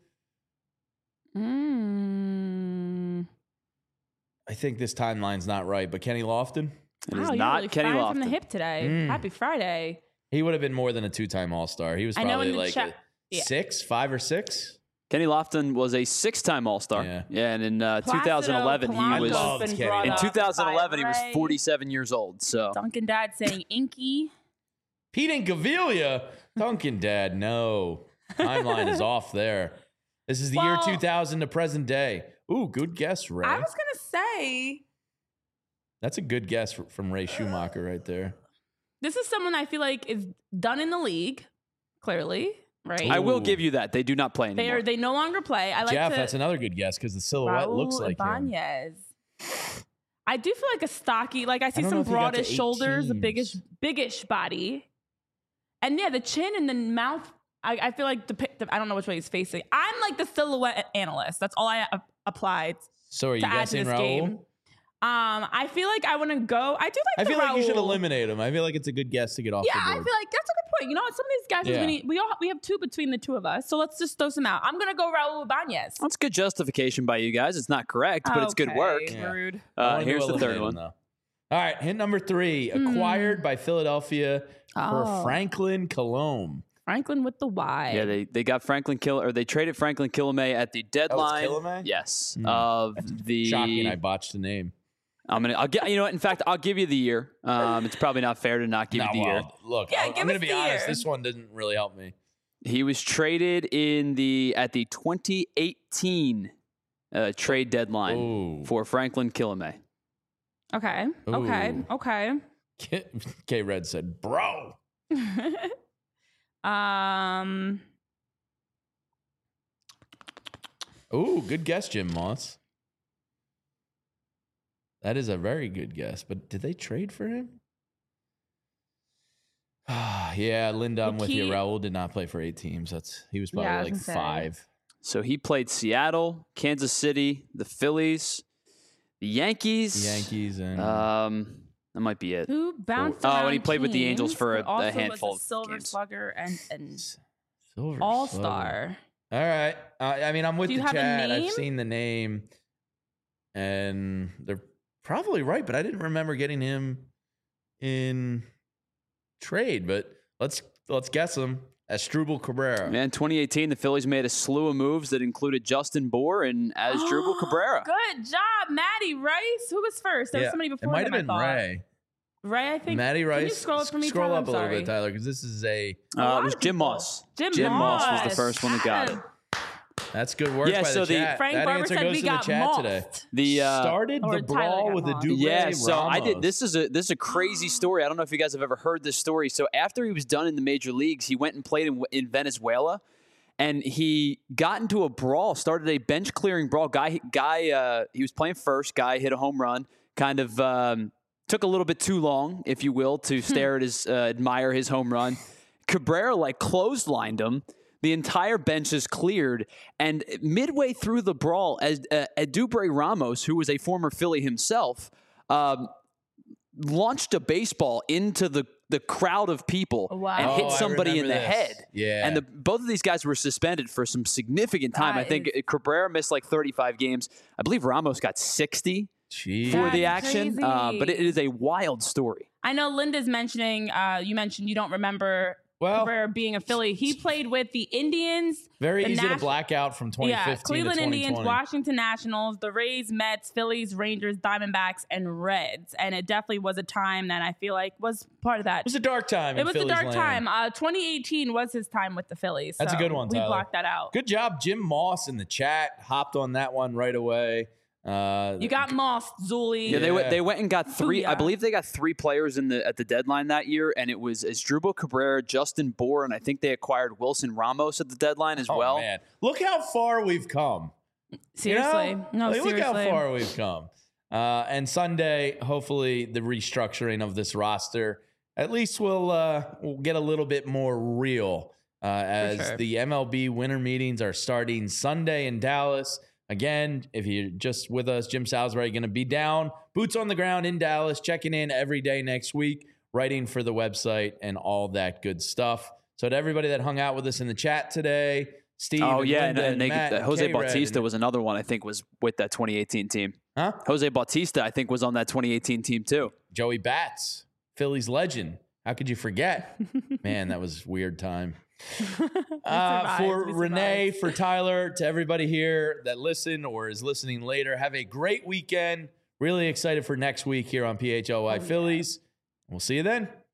Mm. I think this timeline's not right, but Kenny Lofton, It Wow, is you're not really Kenny firing from the Lofton. hip today. Mm. Happy Friday. He would have been more than a two-time All-Star. He was probably like cha- a yeah. six, five or six. Kenny Lofton was a six-time All-Star. Yeah, yeah and in uh, Placido twenty eleven, he Polanco's was been Kenny. brought in up two thousand eleven by he was Ray. forty-seven years old. So Duncan Dad saying Inky. Pete Incaviglia. Duncan Dad, no. Timeline is off there. This is the Well, year two thousand to present day. Ooh, good guess, Ray. I was gonna say That's a good guess from Ray Schumacher right there. this is someone I feel like is done in the league. Clearly, right? I will Ooh. give you that. They do not play They anymore. are. They no longer play. I like Jeff, to, that's another good guess because the silhouette Raul looks like him. Ibanez. I do feel like a stocky. Like I see don't know some if he got to broadish shoulders, a eight biggish, teams. biggish body, and yeah, the chin and the mouth. I, I feel like the, the I don't know which way he's facing. I'm like the silhouette analyst. That's all I uh, applied So are you to add to guessing this Raul? game. Um, I feel like I want to go. I do like. I the feel like you should Raul. eliminate him. I feel like it's a good guess to get off Yeah, the I board. feel like that's a good point. You know what? Some of these guys, Yeah. we, need, we all we have two between the two of us, so let's just throw some out. I'm gonna go Raul Ibanez. That's good justification by you guys. It's not correct, but it's good Okay, work. Yeah. Rude. I Uh, wanted to here's the eliminate third him, one. though. All right, hint number three, acquired by Philadelphia for Oh. Franklin Kilome. Franklin with the Y. Yeah, they, they got Franklin Kill or they traded Franklin Kilome at the deadline. Kilome? Yes, Hmm. of the. Shocking, I botched the name. I'm gonna. I'll get. You know what? In fact, I'll give you the year. Um, it's probably not fair to not give No, you the year. well, look, Yeah, I, give I'm going us to be the honest. year. This one didn't really help me. He was traded in the at the twenty eighteen uh, trade deadline Ooh. for Franklin Kilome. Okay. Okay. Ooh. Okay. K Red said, bro. um. Ooh, good guess, Jim Moss. That is a very good guess. But did they trade for him? Yeah, Linda, I'm The with you. key- Raul did not play for eight teams. That's he was probably Yeah, I was like gonna say. five. So he played Seattle, Kansas City, the Phillies, the Yankees. The Yankees and Um, that might be it. Who bounced Oh, and around he played with the teams, Angels for but a- a also handful was of a Silver games. Slugger and and Silver All Slugger. Star. All right. Uh, I mean, I'm with Do you the have a chat. I've name? seen the name, and they're probably right, but I didn't remember getting him in trade. But let's let's guess him. Asdrubal Cabrera. Man, twenty eighteen, the Phillies made a slew of moves that included Justin Bour and Asdrubal Cabrera. Good job, Maddie Rice. Who was first? There was somebody it before might him, have been I thought. Ray. Ray, I think. Matty Can Rice. you scroll up for me, Scroll Tyler? up a I'm little sorry. bit, Tyler, because this is a Uh, lot it was of Jim people. Moss. Jim, Jim Moss. Moss was the first one that got it. that's good work Yeah, by so the the- chat. Frank that Barber answer said goes we to the got chat mossed. today. The uh, Started Or the Tyler brawl got with the mossed. Dubrey Yeah, so I did. Ramos. This is a this is a crazy story. I don't know if you guys have ever heard this story. So after he was done in the major leagues, he went and played in, in Venezuela, and he got into a brawl. Started a bench clearing brawl. Guy, guy, uh, he was playing first. Guy hit a home run. Kind of um, took a little bit too long, if you will, to stare at his, uh, admire his home run. Cabrera like clotheslined him. The entire bench is cleared, and midway through the brawl, as uh, Dubrey Ramos, who was a former Philly himself, um, launched a baseball into the, the crowd of people Wow. and Oh, hit I somebody in the remember this. head. Yeah. And the, both of these guys were suspended for some significant time. That I think is- Cabrera missed like thirty-five games. I believe Ramos got sixty Jeez. for the That's action. Uh, but it crazy. is a wild story. I know Linda's mentioning, uh, you mentioned you don't remember Well- Cabrera being a Philly. He played with the Indians. Very the easy to Nat- black out from twenty fifteen Yeah, Cleveland to twenty Indians, twenty. Washington Nationals, the Rays, Mets, Phillies, Rangers, Diamondbacks, and Reds. And it definitely was a time that I feel like was part of that. It was a dark time. It in was a Phillies dark land. time. Uh, twenty eighteen was his time with the Phillies. That's a so good one, We Tyler. blocked that out. Good job, Jim Moss in the chat. Hopped on that one right away. Uh, You got Moss, Zuli. Yeah, they went. Yeah. They went and got three. I Booyah. believe they got three players in the at the deadline that year, and it was Asdrubal Cabrera, Justin Bour, and I think they acquired Wilson Ramos at the deadline as oh, well. man. Look how far we've come. Seriously. You know? No, Like, seriously. Look how far we've come. Uh, and Sunday, hopefully, the restructuring of this roster at least will uh, will get a little bit more real uh, as sure. the M L B winter meetings are starting Sunday in Dallas. Again, if you're just with us, Jim Salisbury going to be down, boots on the ground in Dallas, checking in every day next week, writing for the website and all that good stuff. So to everybody that hung out with us in the chat today, Steve, Oh and yeah, Linda and, and they, Matt the, and Jose K-Red Bautista and- was another one. I think was with that twenty eighteen team. Huh? Jose Bautista, I think, was on that twenty eighteen team too. Joey Bats, Phillies legend. How could you forget? Man, that was a weird time. Uh, for Renee, for Tyler, to everybody here that listen or is listening later, have a great weekend. Really excited for next week here on P H L Y oh, Phillies. Yeah. We'll see you then.